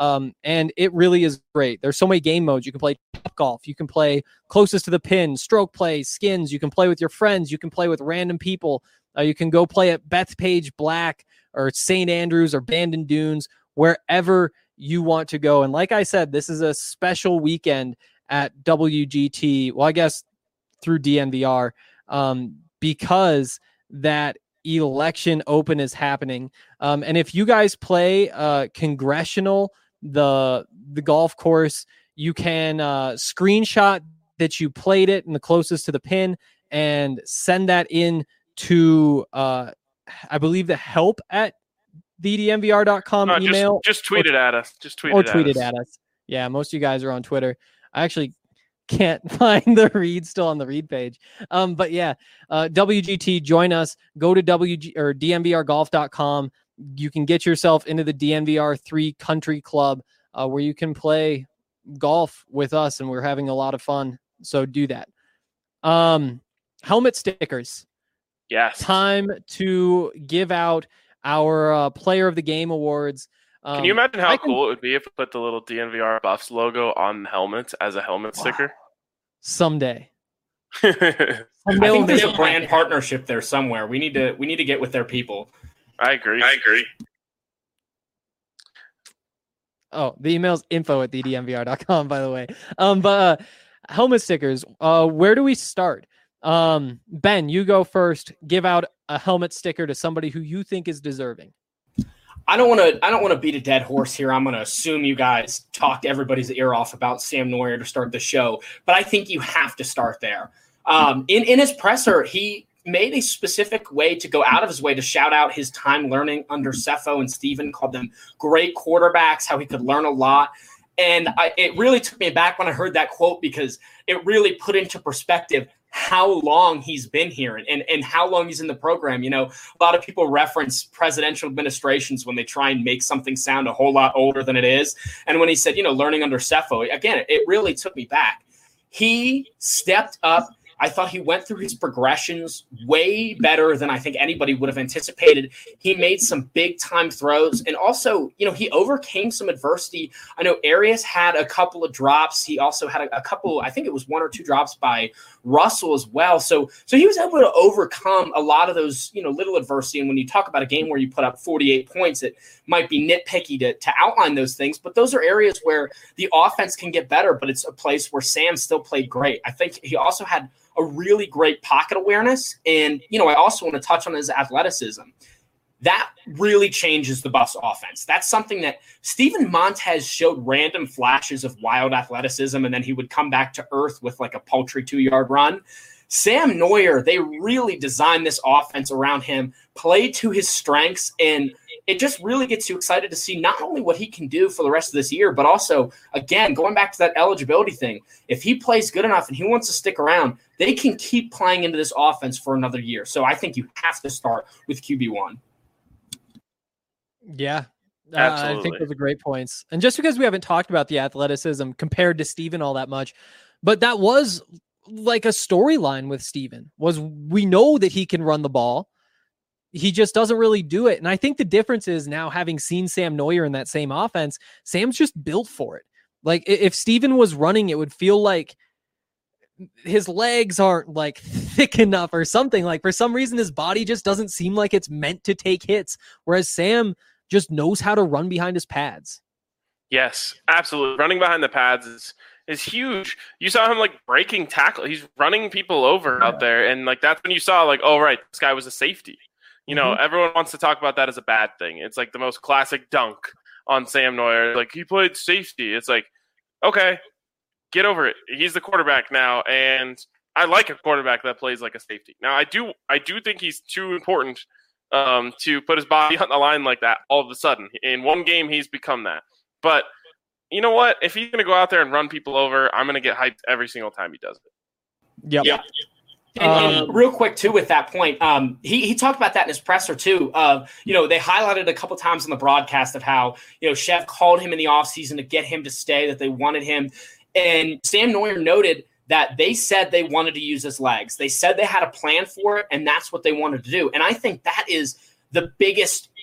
Um, and it really is great. There's so many game modes. You can play top golf. You can play closest to the pin, stroke play, skins. You can play with your friends. You can play with random people. Uh, you can go play at Bethpage Black or Saint Andrews or Bandon Dunes, wherever you want to go. And like I said, this is a special weekend at W G T. Well, I guess through D N V R, um, because that election open is happening. Um, and if you guys play uh, Congressional, the the golf course, you can uh, screenshot that you played it and the closest to the pin and send that in to, uh, I believe, the help at the D N V R dot com no, email. Just, just tweet or, it at us. Just tweet or it tweet at it us. at us. Yeah, most of you guys are on Twitter. I actually can't find the read still on the read page. Um, but yeah, uh, W G T, join us. Go to W G or D N V R golf dot com. You can get yourself into the D N V R three Country Club, uh, where you can play golf with us, and we're having a lot of fun. So do that. Um, helmet stickers. Yes. Time to give out our uh, Player of the Game awards. Um, Can you imagine how I can- cool it would be if we put the little D N V R Buffs logo on the helmets as a helmet sticker? Someday. I I think there's a Someday. brand partnership there somewhere. We need to we need to get with their people. agree. I agree. Oh, the email's info at the D N V R dot com, by the way. Um, but uh, helmet stickers, uh, where do we start? Um, Ben, you go first. Give out a helmet sticker to somebody who you think is deserving. I don't want to. I don't want to beat a dead horse here. I'm going to assume you guys talked everybody's ear off about Sam Noyer to start the show, but I think you have to start there. Um, in in his presser, he made a specific way to go out of his way to shout out his time learning under Cepho and Steven, called them great quarterbacks, how he could learn a lot. And I, it really took me aback when I heard that quote, because it really put into perspective how long he's been here and, and, and how long he's in the program. You know, a lot of people reference presidential administrations when they try and make something sound a whole lot older than it is. And when he said, you know, learning under Cepho, again, it really took me back. He stepped up. I thought he went through his progressions way better than I think anybody would have anticipated. He made some big time throws, and also, you know, he overcame some adversity. I know Arias had a couple of drops. He also had a, a couple, I think it was one or two drops by Russell as well. So, so he was able to overcome a lot of those, you know, little adversity. And when you talk about a game where you put up forty-eight points, it might be nitpicky to, to outline those things, but those are areas where the offense can get better, but it's a place where Sam still played great. I think he also had a really great pocket awareness. And, you know, I also want to touch on his athleticism. That really changes the Buffs offense. That's something that Steven Montez showed random flashes of wild athleticism, and then he would come back to earth with like a paltry two-yard run. Sam Noyer, they really designed this offense around him, played to his strengths, and it just really gets you excited to see not only what he can do for the rest of this year, but also, again, going back to that eligibility thing, if he plays good enough and he wants to stick around, they can keep playing into this offense for another year. So I think you have to start with Q B one. Yeah, uh, Absolutely. I think those are great points. And just because we haven't talked about the athleticism compared to Steven all that much, but that was like a storyline with Steven, was we know that he can run the ball. He just doesn't really do it. And I think the difference is now, having seen Sam Noyer in that same offense, Sam's just built for it. Like if Steven was running, it would feel like his legs aren't like thick enough or something. Like for some reason, his body just doesn't seem like it's meant to take hits. Whereas Sam just knows how to run behind his pads. Yes, absolutely. Running behind the pads is is huge. You saw him like breaking tackle. He's running people over yeah. out there. And like, that's when you saw like, oh, right, this guy was a safety. You know, mm-hmm. everyone wants to talk about that as a bad thing. It's like the most classic dunk on Sam Noyer. Like, he played safety. It's like, okay, get over it. He's the quarterback now, and I like a quarterback that plays like a safety. Now, I do I do think he's too important um, to put his body on the line like that all of a sudden. In one game, he's become that. But you know what? If he's going to go out there and run people over, I'm going to get hyped every single time he does it. Yep. Yeah. And, um, and real quick, too, with that point, um, he, he talked about that in his presser, too. Of, you know, they highlighted a couple times in the broadcast of how, you know, Chev called him in the offseason to get him to stay, that they wanted him. And Sam Noyer noted that they said they wanted to use his legs. They said they had a plan for it, and that's what they wanted to do. And I think that is the biggest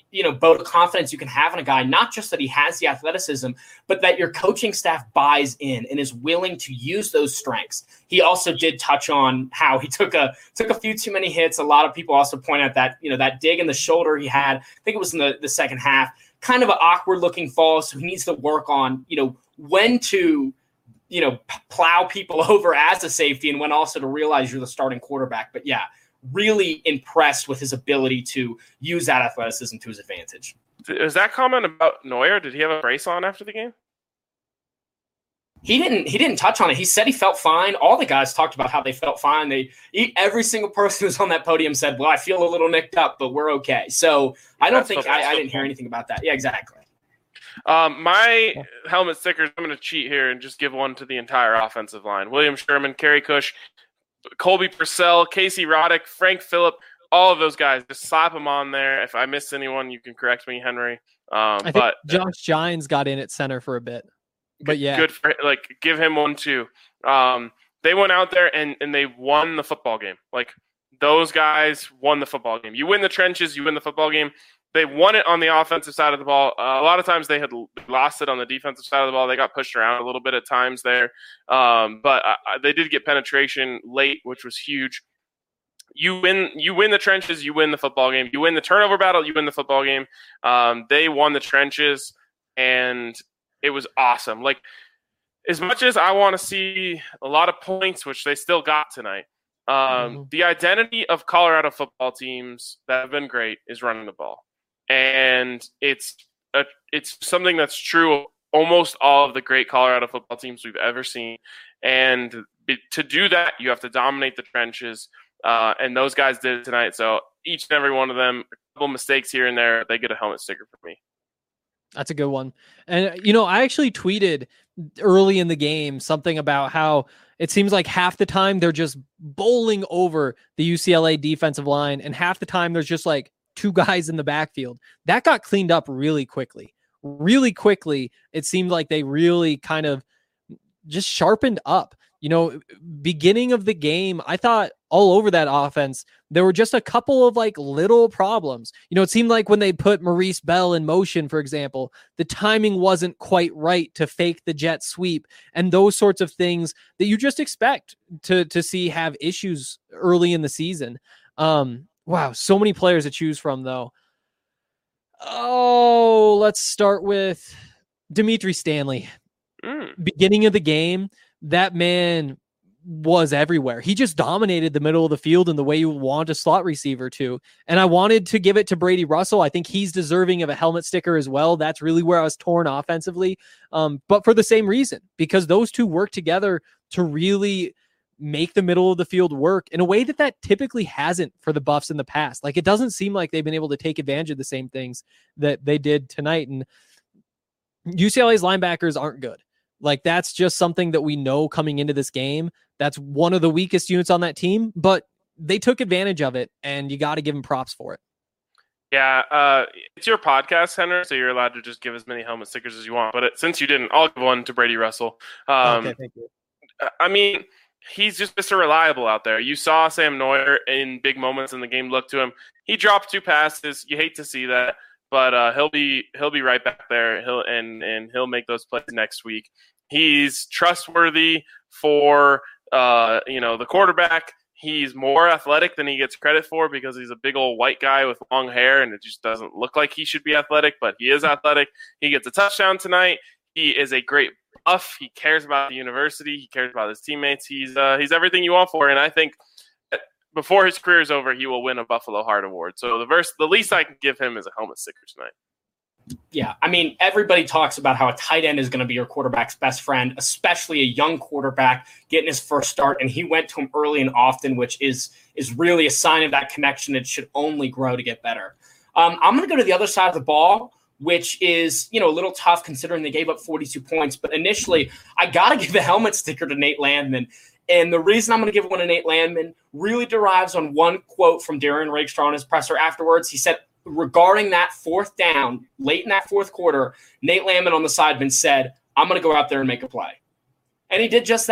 you know, vote of confidence you can have in a guy, not just that he has the athleticism, but that your coaching staff buys in and is willing to use those strengths. He also did touch on how he took a took a few too many hits. A lot of people also point out that, you know, that dig in the shoulder he had, I think it was in the, the second half, kind of an awkward looking fall. So he needs to work on, you know, when to, you know, plow people over as a safety and when also to realize you're the starting quarterback. But yeah, really impressed with his ability to use that athleticism to his advantage. Is that comment about Neuer? Did he have a brace on after the game? He didn't. He didn't touch on it. He said he felt fine. All the guys talked about how they felt fine. They every single person who was on that podium said, "Well, I feel a little nicked up, but we're okay." So I don't think I, I didn't hear anything about that. Yeah, exactly. Um, my helmet stickers. I'm going to cheat here and just give one to the entire offensive line: William Sherman, Kerry Cush, Colby Purcell, Casey Roddick, Frank Phillip, all of those guys. Just slap them on there. If I missed anyone, you can correct me, Henry. Um, I but think Josh Gines got in at center for a bit, but yeah, good for like give him one too. Um, they went out there and and they won the football game. Like those guys won the football game. You win the trenches, you win the football game. They won it on the offensive side of the ball. Uh, a lot of times they had lost it on the defensive side of the ball. They got pushed around a little bit at times there. Um, but uh, they did get penetration late, which was huge. You win you win the trenches, you win the football game. You win the turnover battle, you win the football game. Um, they won the trenches, and it was awesome. Like, as much as I want to see a lot of points, which they still got tonight, um, mm-hmm. the identity of Colorado football teams that have been great is running the ball. And it's a, it's something that's true of almost all of the great Colorado football teams we've ever seen. And to do that, you have to dominate the trenches. Uh, and those guys did it tonight. So each and every one of them, a couple mistakes here and there, they get a helmet sticker from me. That's a good one. And, you know, I actually tweeted early in the game something about how it seems like half the time they're just bowling over the U C L A defensive line, and half the time there's just like two guys in the backfield. That got cleaned up really quickly. Really quickly, it seemed like they really kind of just sharpened up. You know, beginning of the game, I thought all over that offense, there were just a couple of like little problems. You know, it seemed like when they put Maurice Bell in motion, for example, the timing wasn't quite right to fake the jet sweep and those sorts of things that you just expect to, to see have issues early in the season. Um, wow, so many players to choose from, though. Oh, let's start with Dimitri Stanley. Mm. Beginning of the game, that man was everywhere. He just dominated the middle of the field in the way you want a slot receiver to. And I wanted to give it to Brady Russell. I think he's deserving of a helmet sticker as well. That's really where I was torn offensively. Um, but for the same reason, because those two work together to really make the middle of the field work in a way that that typically hasn't for the Buffs in the past. Like, it doesn't seem like they've been able to take advantage of the same things that they did tonight. And U C L A's linebackers aren't good. Like, that's just something that we know coming into this game. That's one of the weakest units on that team, but they took advantage of it, and you got to give them props for it. Yeah, uh, it's your podcast, Henry, so you're allowed to just give as many helmet stickers as you want. But it, since you didn't, I'll give one to Brady Russell. Um, okay, thank you. I mean, he's just Mister Reliable out there. You saw Sam Neuer in big moments in the game look to him. He dropped two passes. You hate to see that. But uh, he'll be he'll be right back there. He'll and and he'll make those plays next week. He's trustworthy for uh, you know the quarterback. He's more athletic than he gets credit for because he's a big old white guy with long hair, and it just doesn't look like he should be athletic. But he is athletic. He gets a touchdown tonight. He is a great buff. He cares about the university. He cares about his teammates. He's uh, he's everything you want for. And I think before his career is over, he will win a Buffalo Heart Award. So the verse, the least I can give him is a helmet sticker tonight. Yeah, I mean, everybody talks about how a tight end is going to be your quarterback's best friend, especially a young quarterback getting his first start, and he went to him early and often, which is is really a sign of that connection. It should only grow to get better. Um, I'm going to go to the other side of the ball, which is, you know, a little tough considering they gave up forty-two points. But initially, I got to give the helmet sticker to Nate Landman. And the reason I'm going to give one to Nate Landman really derives on one quote from Darren Rakestraw in his presser afterwards. He said, regarding that fourth down, late in that fourth quarter, Nate Landman on the sideman said, I'm going to go out there and make a play. And he did just that.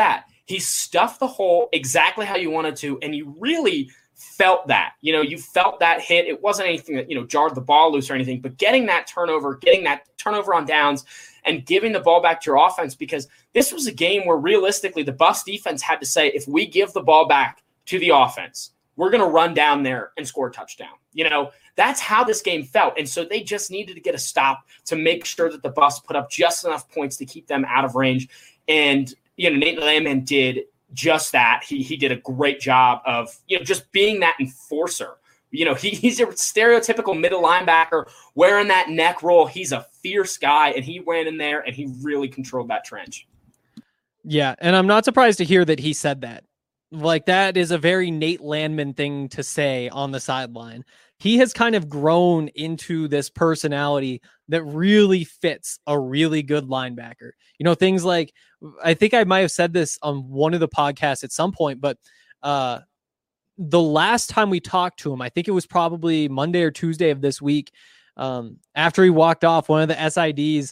He stuffed the hole exactly how you wanted to, and you really felt that. You know, you felt that hit. It wasn't anything that, you know, jarred the ball loose or anything, but getting that turnover, getting that turnover on downs, and giving the ball back to your offense, because this was a game where realistically the Buffs defense had to say, if we give the ball back to the offense, we're going to run down there and score a touchdown. You know, that's how this game felt. And so they just needed to get a stop to make sure that the Buffs put up just enough points to keep them out of range. And, you know, Nate Landman did just that. He he did a great job of, you know, just being that enforcer. You know, he, he's a stereotypical middle linebacker wearing that neck roll. He's a fierce guy, and he went in there and he really controlled that trench. Yeah, and I'm not surprised to hear that he said that. Like, that is a very Nate Landman thing to say on the sideline. He has kind of grown into this personality that really fits a really good linebacker. You know, things like, I think I might have said this on one of the podcasts at some point, but uh, the last time we talked to him, I think it was probably Monday or Tuesday of this week, um, after he walked off, one of the S I Ds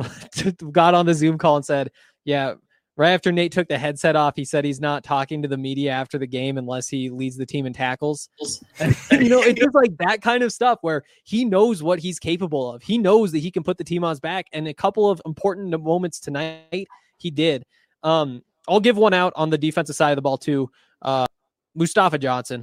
got on the Zoom call and said, yeah, right after Nate took the headset off, he said he's not talking to the media after the game unless he leads the team in tackles. You know, it's just like that kind of stuff where he knows what he's capable of. He knows that he can put the team on his back. And a couple of important moments tonight, he did. Um, I'll give one out on the defensive side of the ball too. Uh, Mustafa Johnson.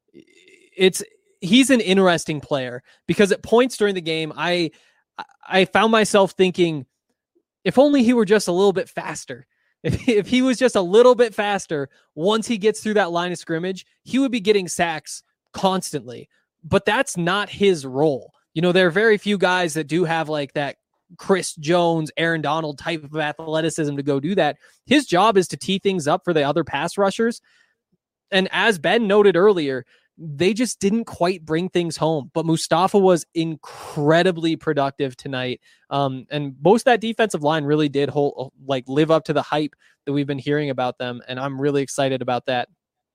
It's he's an interesting player because at points during the game, I I found myself thinking, if only he were just a little bit faster. If, if he was just a little bit faster, once he gets through that line of scrimmage, he would be getting sacks constantly. But that's not his role. You know, there are very few guys that do have like that Chris Jones, Aaron Donald type of athleticism to go do that. His job is to tee things up for the other pass rushers. And as Ben noted earlier, they just didn't quite bring things home. But Mustafa was incredibly productive tonight. Um, and most of that defensive line really did hold, like live up to the hype that we've been hearing about them. And I'm really excited about that.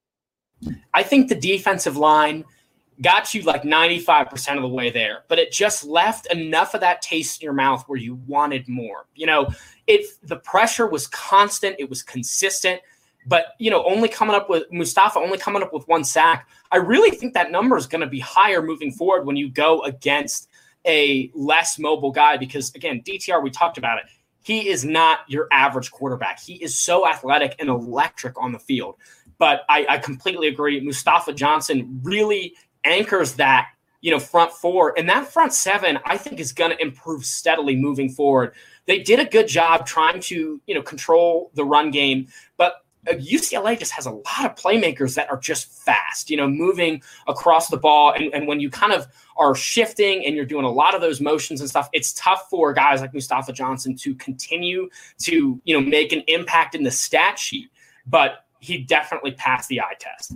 I think the defensive line got you like ninety-five percent of the way there, but it just left enough of that taste in your mouth where you wanted more. You know, it, the pressure was constant. It was consistent. But, you know, only coming up with Mustafa, only coming up with one sack, I really think that number is going to be higher moving forward when you go against a less mobile guy. Because, again, D T R, we talked about it. He is not your average quarterback. He is so athletic and electric on the field. But I, I completely agree. Mustafa Johnson really anchors that, you know, front four. And that front seven, I think, is going to improve steadily moving forward. They did a good job trying to, you know, control the run game. But U C L A just has a lot of playmakers that are just fast, you know, moving across the ball. And, and when you kind of are shifting and you're doing a lot of those motions and stuff, it's tough for guys like Mustafa Johnson to continue to, you know, make an impact in the stat sheet. But he definitely passed the eye test.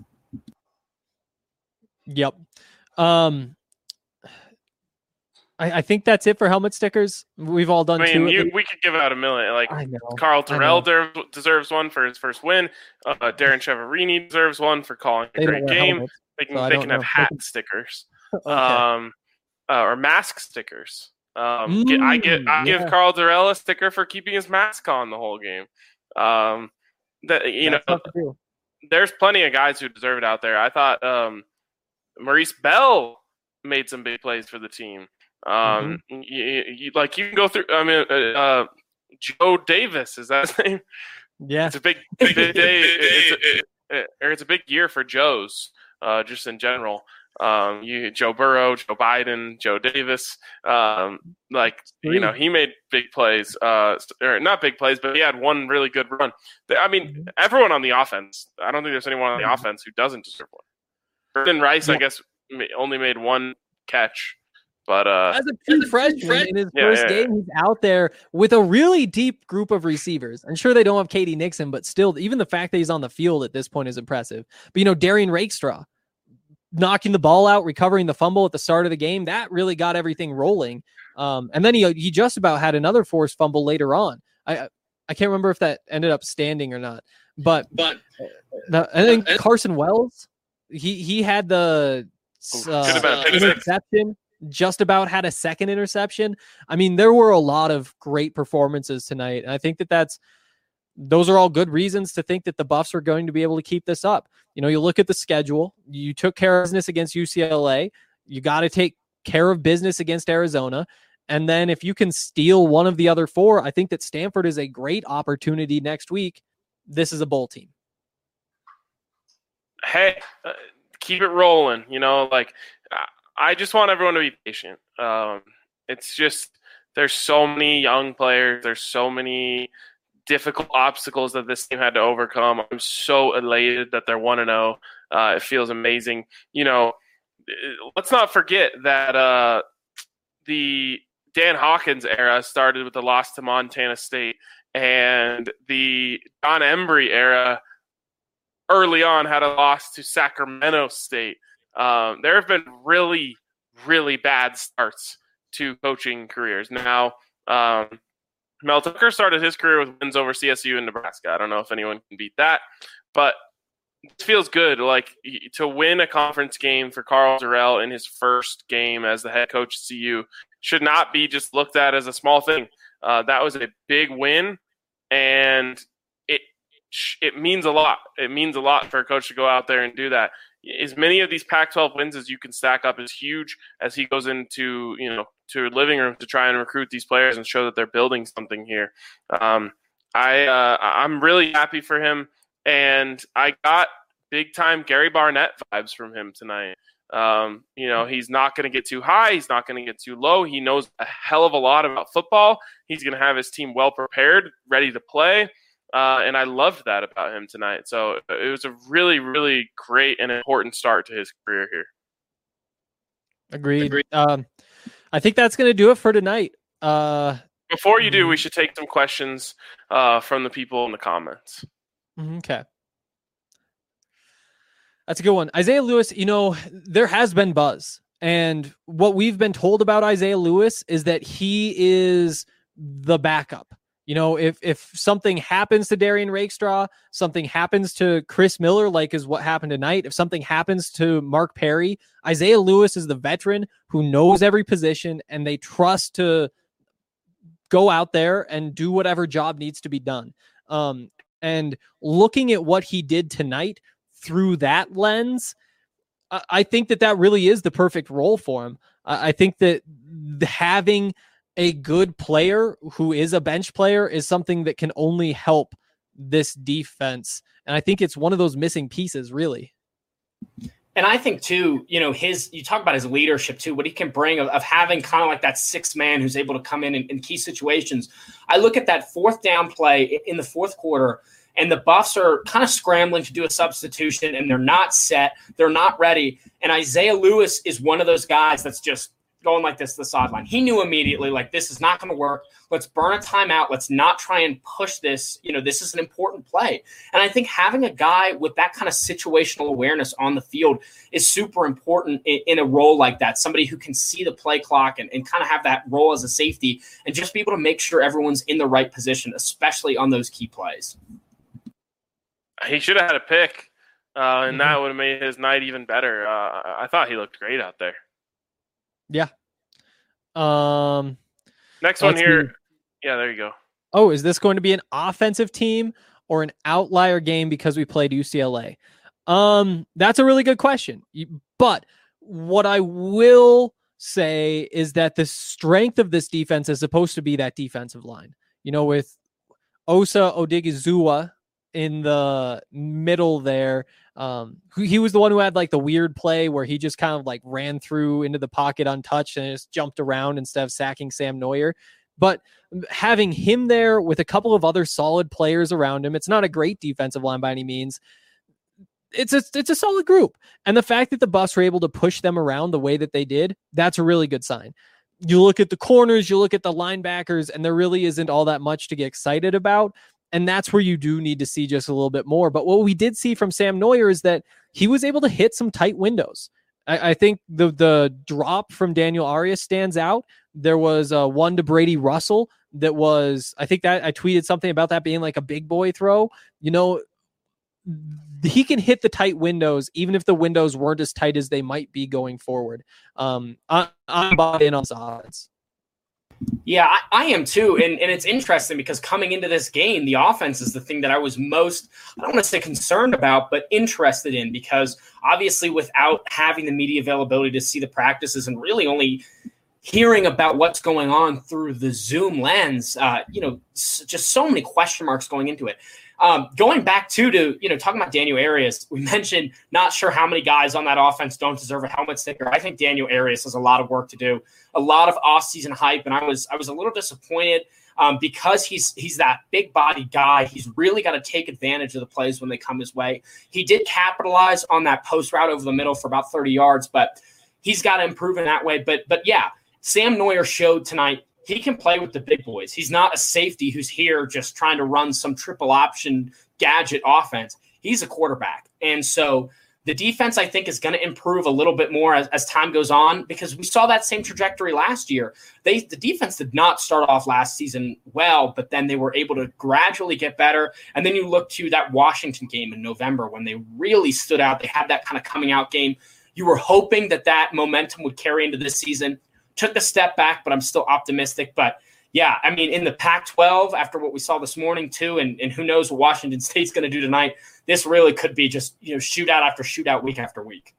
Yep. Um, I, I think that's it for helmet stickers. We've all done I mean, two. you, we could give out a million. Like I know, Carl I Terrell know. der- deserves one for his first win. Uh, Darren Cheverini deserves one for calling a They don't great wear game. helmets, They can so I they don't can have know. hat They can- stickers, Okay. um, uh, or mask stickers. Um, get, I get I Mm, give yeah. Carl Terrell a sticker for keeping his mask on the whole game. Um, that you That's know, tough to do. there's plenty of guys who deserve it out there. I thought um, Maurice Bell made some big plays for the team. Um, Mm-hmm. you, you, like you can go through. I mean, uh, uh, Joe Davis is that his name? Yeah. It's a big, big day. It's a, or it's a big year for Joes, uh, just in general. Um, you Joe Burrow, Joe Biden, Joe Davis. Um, like you know, he made big plays. Uh, or not big plays, but he had one really good run. I mean, everyone on the offense. I don't think there's anyone on the offense who doesn't deserve one. Brendan Rice, I guess, only made one catch. But uh, as a true freshman in his Yeah, first yeah, yeah. game, he's out there with a really deep group of receivers. I'm sure they don't have Katie Nixon, but still, even the fact that he's on the field at this point is impressive. But, you know, Darian Rakestraw knocking the ball out, recovering the fumble at the start of the game, that really got everything rolling. Um, and then he he just about had another forced fumble later on. I I can't remember if that ended up standing or not. But, But the, and then Carson Wells, he, he had the uh, Could have been a pick six. interception. Just about had a second interception. I mean, there were a lot of great performances tonight. And I think that that's those are all good reasons to think that the Buffs are going to be able to keep this up. You know, you look at the schedule, you took care of business against U C L A. You got to take care of business against Arizona. And then if you can steal one of the other four, I think that Stanford is a great opportunity next week. This is a bowl team. Hey, uh, keep it rolling. You know, like I just want everyone to be patient. Um, it's just, there's so many young players. There's so many difficult obstacles that this team had to overcome. I'm so elated that they're one and oh. Uh, it feels amazing. You know, let's not forget that uh, the Dan Hawkins era started with the loss to Montana State, and the Don Embry era early on had a loss to Sacramento State. Um, there have been really, really bad starts to coaching careers. Now, um, Mel Tucker started his career with wins over C S U and Nebraska. I don't know if anyone can beat that, but it feels good. Like, to win a conference game for Karl Dorrell in his first game as the head coach at C U should not be just looked at as a small thing. Uh, that was a big win, and it it means a lot. It means a lot for a coach to go out there and do that. As many of these Pac twelve wins as you can stack up is huge as he goes into, you know, to a living room to try and recruit these players and show that they're building something here. Um, I uh, I'm really happy for him. And I got big-time Gary Barnett vibes from him tonight. Um, you know, he's not going to get too high. He's not going to get too low. He knows a hell of a lot about football. He's going to have his team well-prepared, ready to play. Uh, and I loved that about him tonight. So it was a really, really great and important start to his career here. Agreed. Agreed. Um, I think that's going to do it for tonight. Uh, Before you do, we should take some questions uh, from the people in the comments. Okay. That's a good one. Isaiah Lewis, you know, there has been buzz. And what we've been told about Isaiah Lewis is that he is the backup. You know, if if something happens to Darian Rakestraw, something happens to Chris Miller, like is what happened tonight, if something happens to Mark Perry, Isaiah Lewis is the veteran who knows every position, and they trust to go out there and do whatever job needs to be done. Um, And looking at what he did tonight through that lens, I think that that really is the perfect role for him. I think that having a good player who is a bench player is something that can only help this defense. And I think it's one of those missing pieces, really. And I think, too, you know, his, you talk about his leadership, too, what he can bring of, of having kind of like that sixth man who's able to come in, in in key situations. I look at that fourth down play in the fourth quarter, and the Buffs are kind of scrambling to do a substitution, and they're not set. They're not ready. And Isaiah Lewis is one of those guys that's just going like this to the sideline. He knew immediately, like, this is not going to work. Let's burn a timeout. Let's not try and push this. You know, this is an important play. And I think having a guy with that kind of situational awareness on the field is super important in, in a role like that. Somebody who can see the play clock and, and kind of have that role as a safety and just be able to make sure everyone's in the right position, especially on those key plays. He should have had a pick, uh, and Mm-hmm. that would have made his night even better. Uh, I thought he looked great out there. Yeah. Um. Next one here. See. Yeah, there you go. Oh, is this going to be an offensive team or an outlier game because we played U C L A? Um, that's a really good question. But what I will say is that the strength of this defense is supposed to be that defensive line. You know, with Osa Odigizua in the middle there. Um, he was the one who had like the weird play where he just kind of like ran through into the pocket untouched and just jumped around instead of sacking Sam Neuer. But having him there with a couple of other solid players around him, it's not a great defensive line by any means. It's a, it's a solid group. And the fact that the Buffs were able to push them around the way that they did, that's a really good sign. You look at the corners, you look at the linebackers, and there really isn't all that much to get excited about. And that's where you do need to see just a little bit more. But what we did see from Sam Neuer is that he was able to hit some tight windows. I, I think the the drop from Daniel Arias stands out. There was uh, one to Brady Russell that was, I think that I tweeted something about that being like a big boy throw. You know, he can hit the tight windows, even if the windows weren't as tight as they might be going forward. Um, I, I'm bought in on this offense. Yeah, I, I am too. And, and it's interesting because coming into this game, the offense is the thing that I was most, I don't want to say concerned about, but interested in, because obviously without having the media availability to see the practices and really only hearing about what's going on through the Zoom lens, uh, you know, s- just so many question marks going into it. Um, going back to, to, you know, talking about Daniel Arias, we mentioned not sure how many guys on that offense don't deserve a helmet sticker. I think Daniel Arias has a lot of work to do, a lot of off-season hype, and I was I was a little disappointed um, because he's he's that big body guy. He's really got to take advantage of the plays when they come his way. He did capitalize on that post route over the middle for about thirty yards, but he's got to improve in that way. But but yeah, Sam Neuer showed tonight he can play with the big boys. He's not a safety who's here just trying to run some triple option gadget offense. He's a quarterback. And so the defense, I think, is going to improve a little bit more as, as time goes on, because we saw that same trajectory last year. They The defense did not start off last season well, but then they were able to gradually get better. And then you look to that Washington game in November when they really stood out. They had that kind of coming out game. You were hoping that that momentum would carry into this season. Took a step back, but I'm still optimistic. But yeah, I mean, in the Pac twelve, after what we saw this morning too, and, and who knows what Washington State's going to do tonight, this really could be just, you know, shootout after shootout, week after week.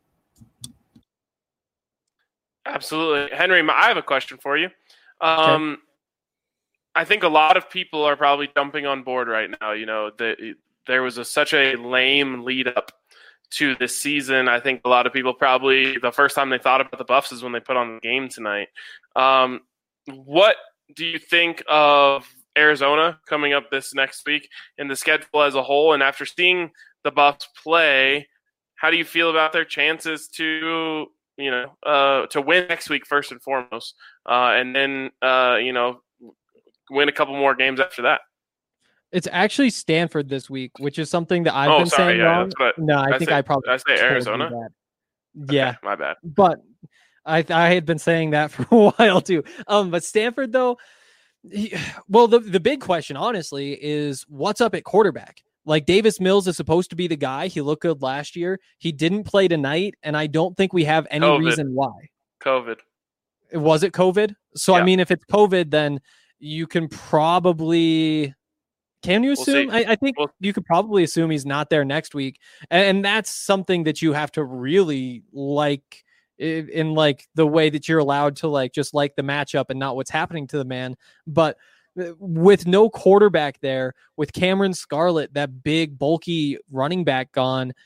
Absolutely. Henry, I have a question for you. Um, okay. I think a lot of people are probably jumping on board right now. You know, the, there was a, such a lame lead up to this season. I think a lot of people probably, the first time they thought about the Buffs is when they put on the game tonight. Um, what do you think of Arizona coming up this next week and the schedule as a whole? And after seeing the Buffs play, how do you feel about their chances to, you know, uh, to win next week first and foremost, uh, and then, uh, you know, win a couple more games after that? It's actually Stanford this week, which is something that I've oh, been sorry, saying yeah, wrong. No, I, I think say, I probably did I say Arizona. Yeah, okay, my bad. But I I had been saying that for a while too. Um, but Stanford though, he, well, the the big question, honestly, is what's up at quarterback. Like Davis Mills is supposed to be the guy. He looked good last year. He didn't play tonight, and I don't think we have any COVID. reason why. COVID. Was it COVID? So yeah. I mean, if it's COVID, then you can probably. Can you assume? We'll I, I think we'll, you could probably assume he's not there next week. And, and that's something that you have to really like in, in like the way that you're allowed to like just like the matchup and not what's happening to the man. But with no quarterback there, with Cameron Scarlett, that big, bulky running back gone,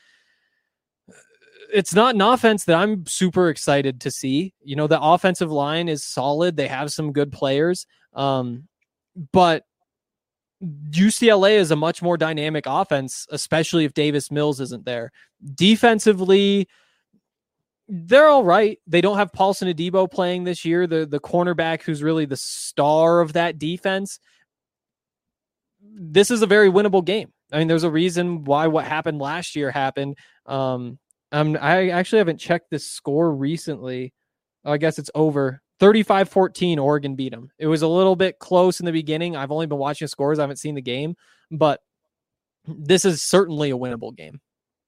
it's not an offense that I'm super excited to see. You know, the offensive line is solid. They have some good players. Um, but U C L A is a much more dynamic offense, especially if Davis Mills isn't there. Defensively, they're all right. They don't have Paulson Adebo playing this year, the, the cornerback who's really the star of that defense. This is a very winnable game. I mean, there's a reason why what happened last year happened. Um, um, I actually haven't checked this score recently. Oh, I guess it's over. thirty-five fourteen, Oregon beat them. It was a little bit close in the beginning. I've only been watching scores. I haven't seen the game, but this is certainly a winnable game.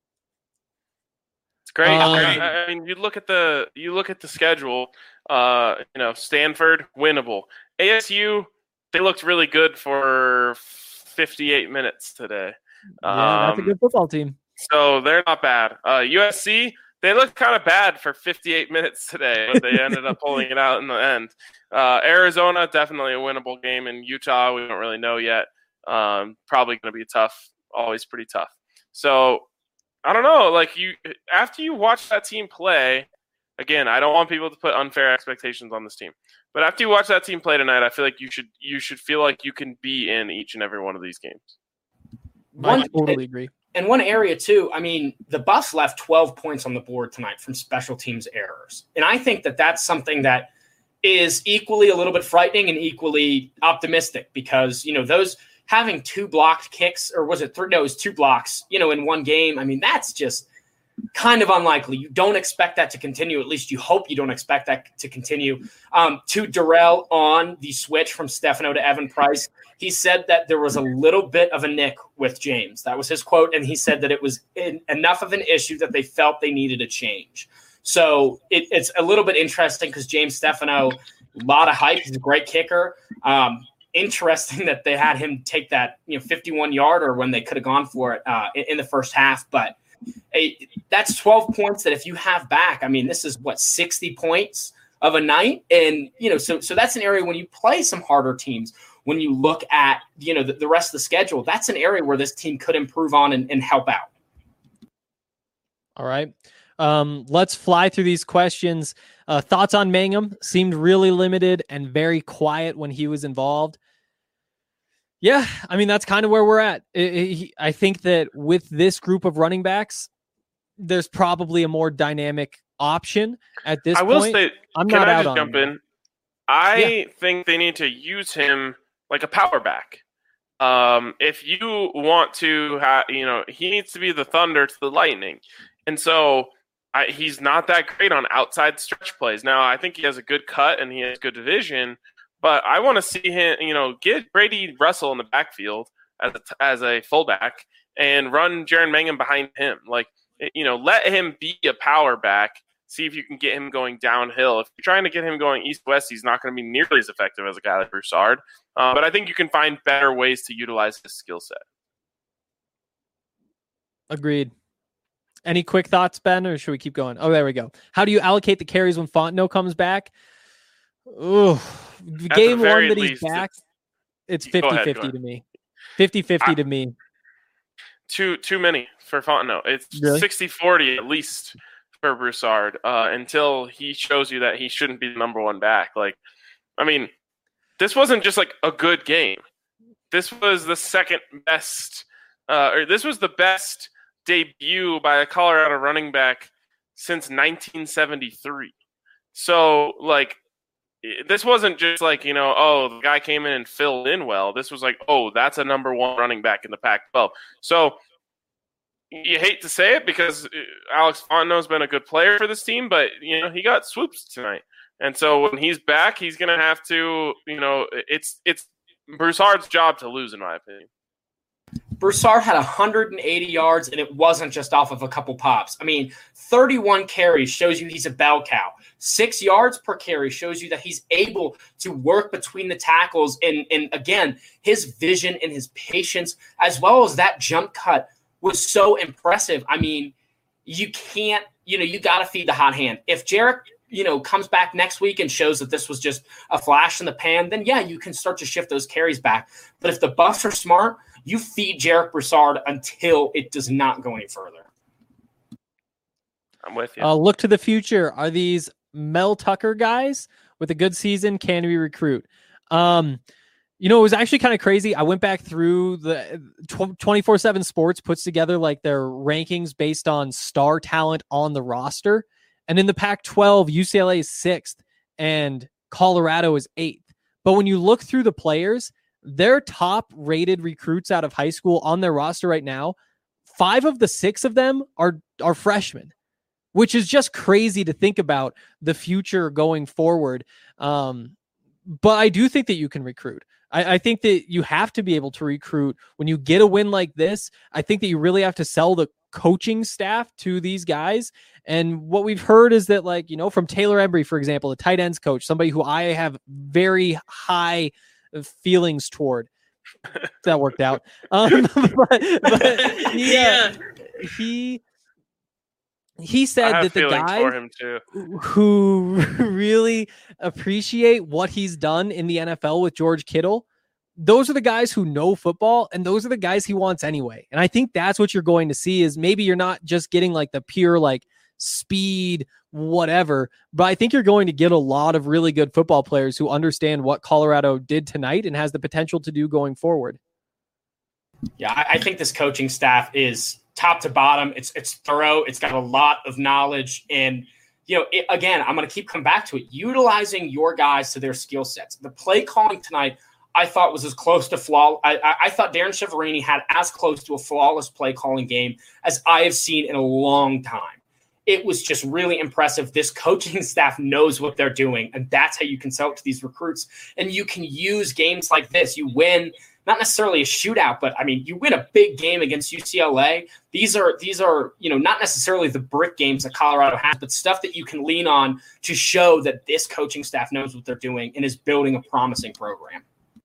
It's great. Um, I mean, you look at the you look at the schedule. Uh, you know, Stanford winnable. A S U, they looked really good for fifty-eight minutes today. Yeah, that's a good football team. So they're not bad. Uh, U S C. They looked kind of bad for fifty-eight minutes today, but they ended up pulling it out in the end. Uh, Arizona, definitely a winnable game. In Utah, we don't really know yet. Um, probably going to be tough, always pretty tough. So, I don't know. Like you, after you watch that team play, again, I don't want people to put unfair expectations on this team. But after you watch that team play tonight, I feel like you should you should feel like you can be in each and every one of these games. I totally agree. And one area, too, I mean, the Buffs left twelve points on the board tonight from special teams errors. And I think that that's something that is equally a little bit frightening and equally optimistic because, you know, those having two blocked kicks, or was it three? No, it was two blocks, you know, in one game. I mean, that's just kind of unlikely. You don't expect that to continue. At least you hope you don't expect that to continue. Um, to Darrell on the switch from Stefano to Evan Price, he said that there was a little bit of a nick with James. That was his quote. And he said that it was in, enough of an issue that they felt they needed a change. So it, it's a little bit interesting because James Stefano A lot of hype. He's a great kicker. Um, interesting that they had him take that, you know, fifty-one yarder when they could have gone for it uh, in, in the first half. But hey, that's twelve points that if you have back, I mean, this is what, sixty points of a night. And, you know, so, so that's an area when you play some harder teams, when you look at, you know, the, the rest of the schedule, that's an area where this team could improve on and, and help out. All right. Um, let's fly through these questions. Uh, thoughts on Mangum? Seemed really limited and very quiet when he was involved. Yeah, I mean, that's kind of where we're at. It, it, I think that with this group of running backs, there's probably a more dynamic option at this I point. will say, I'm can not I out just on jump him. in? I Yeah. think they need to use him like a power back. Um, if you want to have, you know, he needs to be the thunder to the lightning. And so I, he's not that great on outside stretch plays. Now, I think he has a good cut and he has good vision, but I want to see him, you know, get Brady Russell in the backfield as a, as a fullback and run Jaren Mangum behind him. Like, you know, let him be a power back. See if you can get him going downhill. If you're trying to get him going east-west, he's not going to be nearly as effective as a guy like Broussard. Uh, but I think you can find better ways to utilize his skill set. Agreed. Any quick thoughts, Ben, or should we keep going? Oh, there we go. How do you allocate the carries when Fontenot comes back? Ooh, game one very that he's least, back, it's Go ahead, fifty-fifty go to me. fifty-fifty I- to me. Too too many for Fontenot. It's Really? sixty forty at least for Broussard uh, until he shows you that he shouldn't be the number one back. Like, I mean, this wasn't just like a good game. This was the second best, uh, or this was the best debut by a Colorado running back since nineteen seventy-three. So, like, this wasn't just like, you know, oh, the guy came in and filled in well. This was like, oh, that's a number one running back in the Pac twelve. So, you hate to say it because Alex Fontenot's been a good player for this team, but, you know, he got swoops tonight. And so when he's back, he's going to have to, you know, it's it's Broussard's job to lose, in my opinion. Broussard had one hundred eighty yards, and it wasn't just off of a couple pops. I mean, thirty-one carries shows you he's a bell cow. Six yards per carry shows you that he's able to work between the tackles. And, and again, his vision and his patience, as well as that jump cut, was so impressive. I mean, you can't, you know, you got to feed the hot hand. If Jarek, you know, comes back next week and shows that this was just a flash in the pan, then yeah, you can start to shift those carries back. But if the Buffs are smart, you feed Jarek Broussard until it does not go any further. I'm with you. Uh, look to the future. Are these Mel Tucker guys with a good season? Can we recruit? Um, you know, it was actually kind of crazy. I went back through the twenty-four seven Sports puts together like their rankings based on star talent on the roster. And in the Pac twelve, U C L A is sixth and Colorado is eighth. But when you look through the players, their top rated recruits out of high school on their roster right now, five of the six of them are, are freshmen, which is just crazy to think about the future going forward. Um, but I do think that you can recruit. I, I think that you have to be able to recruit when you get a win like this. I think that you really have to sell the coaching staff to these guys. And what we've heard is that, like, you know, from Taylor Embry, for example, the tight ends coach, somebody who I have very high feelings toward. That worked out. Um, but, but yeah, he he said I have that the feelings guys for him too. who really appreciate what he's done in the N F L with George Kittle, those are the guys who know football, and those are the guys he wants anyway. And I think that's what you're going to see is maybe you're not just getting like the pure like speed, whatever, but I think you're going to get a lot of really good football players who understand what Colorado did tonight and has the potential to do going forward. Yeah, I, I think this coaching staff is top to bottom. It's it's thorough. It's got a lot of knowledge. And, you know, it, again, I'm going to keep coming back to it. Utilizing your guys to their skill sets. The play calling tonight, I thought was as close to flaw. I, I, I thought Darren Chiaverini had as close to a flawless play calling game as I have seen in a long time. It was just really impressive. This coaching staff knows what they're doing, and that's how you can sell it to these recruits. And you can use games like this. You win not necessarily a shootout, but I mean, you win a big game against U C L A. These are, these are, you know, not necessarily the brick games that Colorado has, but stuff that you can lean on to show that this coaching staff knows what they're doing and is building a promising program.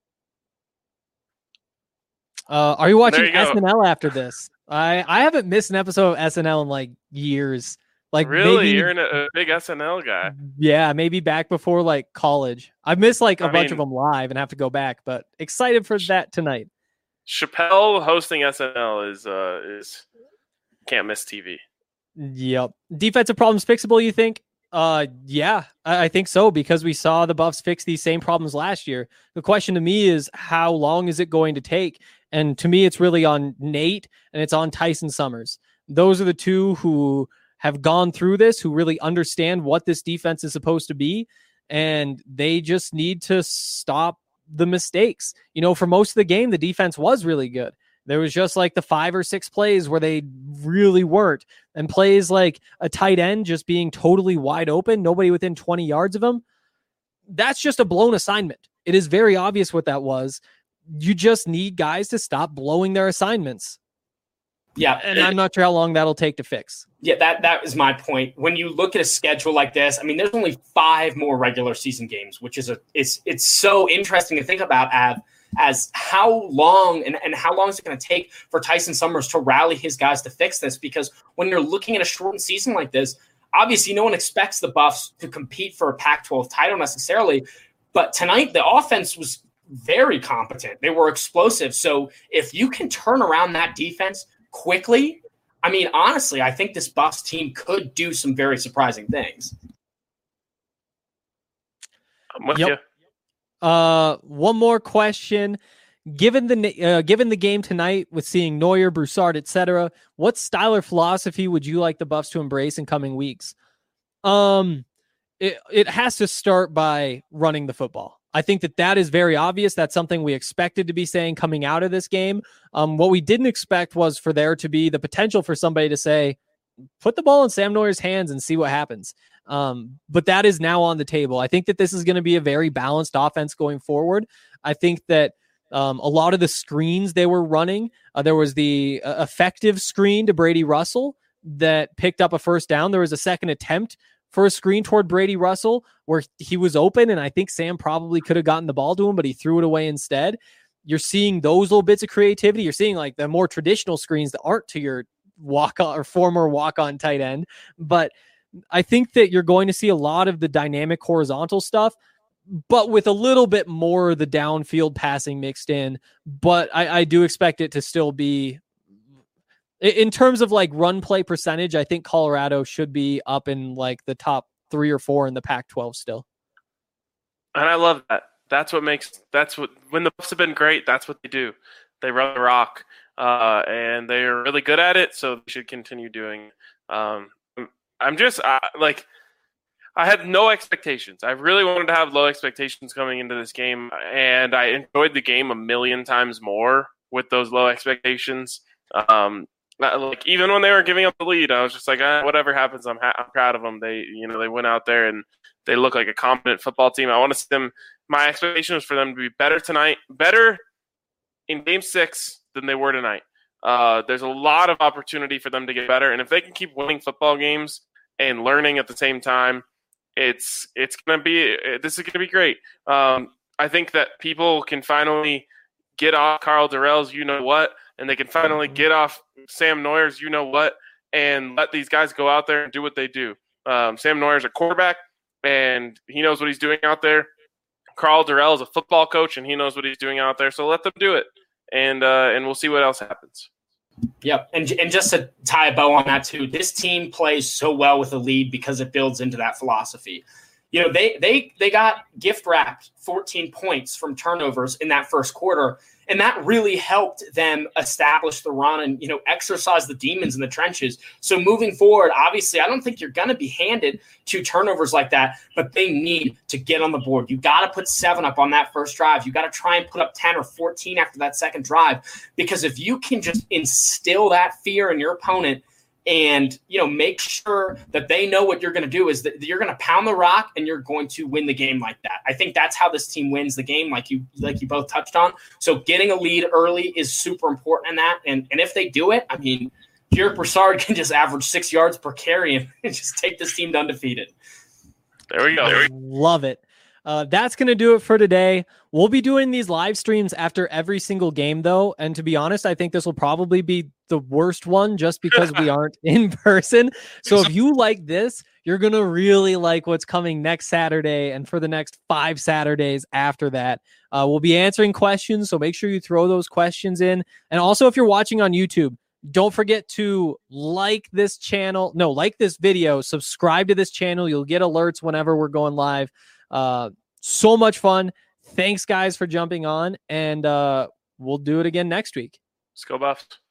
Uh, are you watching There you S go. N L after this? I, I haven't missed an episode of S N L in like years. Like Really? maybe, You're an, a big S N L guy. yeah, maybe back before like college. I've missed like a I bunch mean- of them live and have to go back, but excited for that tonight. Chappelle hosting S N L is uh is can't miss T V. Yep. Defensive problems fixable, you think? Uh, yeah, I, I think so, because we saw the Buffs fix these same problems last year. The question to me is, how long is it going to take? And to me, it's really on Nate and it's on Tyson Summers. Those are the two who have gone through this, who really understand what this defense is supposed to be. And they just need to stop the mistakes. You know, for most of the game, the defense was really good. There was just like the five or six plays where they really weren't. And plays like a tight end just being totally wide open, nobody within twenty yards of him. That's just a blown assignment. It is very obvious what that was. You just need guys to stop blowing their assignments. Yeah. And I'm not sure how long that'll take to fix. Yeah, that that is my point. When you look at a schedule like this, I mean, there's only five more regular season games, which is a it's it's so interesting to think about, Av, as how long and, and how long is it going to take for Tyson Summers to rally his guys to fix this? Because when you're looking at a shortened season like this, obviously no one expects the Buffs to compete for a Pac twelve title necessarily. But tonight, the offense was very competent. They were explosive. So if you can turn around that defense quickly, I mean, honestly, I think this Buffs team could do some very surprising things. I'm with Yep. you. Uh, one more question. Given the uh, given the game tonight, with seeing Neuer, Broussard, et cetera, what style or philosophy would you like the Buffs to embrace in coming weeks? Um, it it has to start by running the football. I think that that is very obvious. That's something we expected to be saying coming out of this game. Um, what we didn't expect was for there to be the potential for somebody to say, put the ball in Sam Neuer's hands and see what happens. Um, but that is now on the table. I think that this is going to be a very balanced offense going forward. I think that um, a lot of the screens they were running, uh, there was the uh, effective screen to Brady Russell that picked up a first down. There was a second attempt for a screen toward Brady Russell where he was open, and I think Sam probably could have gotten the ball to him, but he threw it away instead. You're seeing those little bits of creativity. You're seeing like the more traditional screens that aren't to your walk on or former walk on tight end. But I think that you're going to see a lot of the dynamic horizontal stuff, but with a little bit more of the downfield passing mixed in. But I, I do expect it to still be, in terms of like run play percentage, I think Colorado should be up in like the top three or four in the Pac twelve still. And I love that. That's what makes that's what when the Buffs have been great, that's what they do. They run the rock, uh, and they're really good at it. So they should continue doing. Um, I'm just I, like I had no expectations. I really wanted to have low expectations coming into this game, and I enjoyed the game a million times more with those low expectations. Um, like even when they were giving up the lead, I was just like, ah, whatever happens, I'm ha- I'm proud of them. They you know they went out there and they look like a competent football team. I want to see them. My expectation was for them to be better tonight, better in game six than they were tonight. Uh, there's a lot of opportunity for them to get better, and if they can keep winning football games and learning at the same time, it's it's gonna be this is gonna be great. Um, I think that people can finally get off Carl Durrell's you know what, and they can finally get off Sam Neuer's you know what, and let these guys go out there and do what they do. Um, Sam Neuer's a quarterback, and he knows what he's doing out there. Carl Durrell is a football coach, and he knows what he's doing out there. So let them do it, and uh, and we'll see what else happens. Yep, and and just to tie a bow on that too, this team plays so well with a lead because it builds into that philosophy. You know, they they they got gift wrapped fourteen points from turnovers in that first quarter, and that really helped them establish the run and, you know, exercise the demons in the trenches. So moving forward, obviously, I don't think you're going to be handed two turnovers like that, but they need to get on the board. You got to put seven up on that first drive. You got to try and put up ten or fourteen after that second drive, because if you can just instill that fear in your opponent, and, you know, make sure that they know what you're going to do is that you're going to pound the rock and you're going to win the game like that. I think that's how this team wins the game, like you like you both touched on. So getting a lead early is super important in that. And and if they do it, I mean, Jarek Broussard can just average six yards per carry and just take this team to undefeated. There we go. There we go. Love it. Uh, that's going to do it for today. We'll be doing these live streams after every single game, though. And to be honest, I think this will probably be the worst one just because we aren't in person. So if you like this, you're going to really like what's coming next Saturday and for the next five Saturdays after that. Uh, we'll be answering questions, so make sure you throw those questions in. And also, if you're watching on YouTube, don't forget to like this channel. No, like this video. Subscribe to this channel. You'll get alerts whenever we're going live. Uh, so much fun. Thanks, guys, for jumping on, and uh, we'll do it again next week. Let's go Buffs.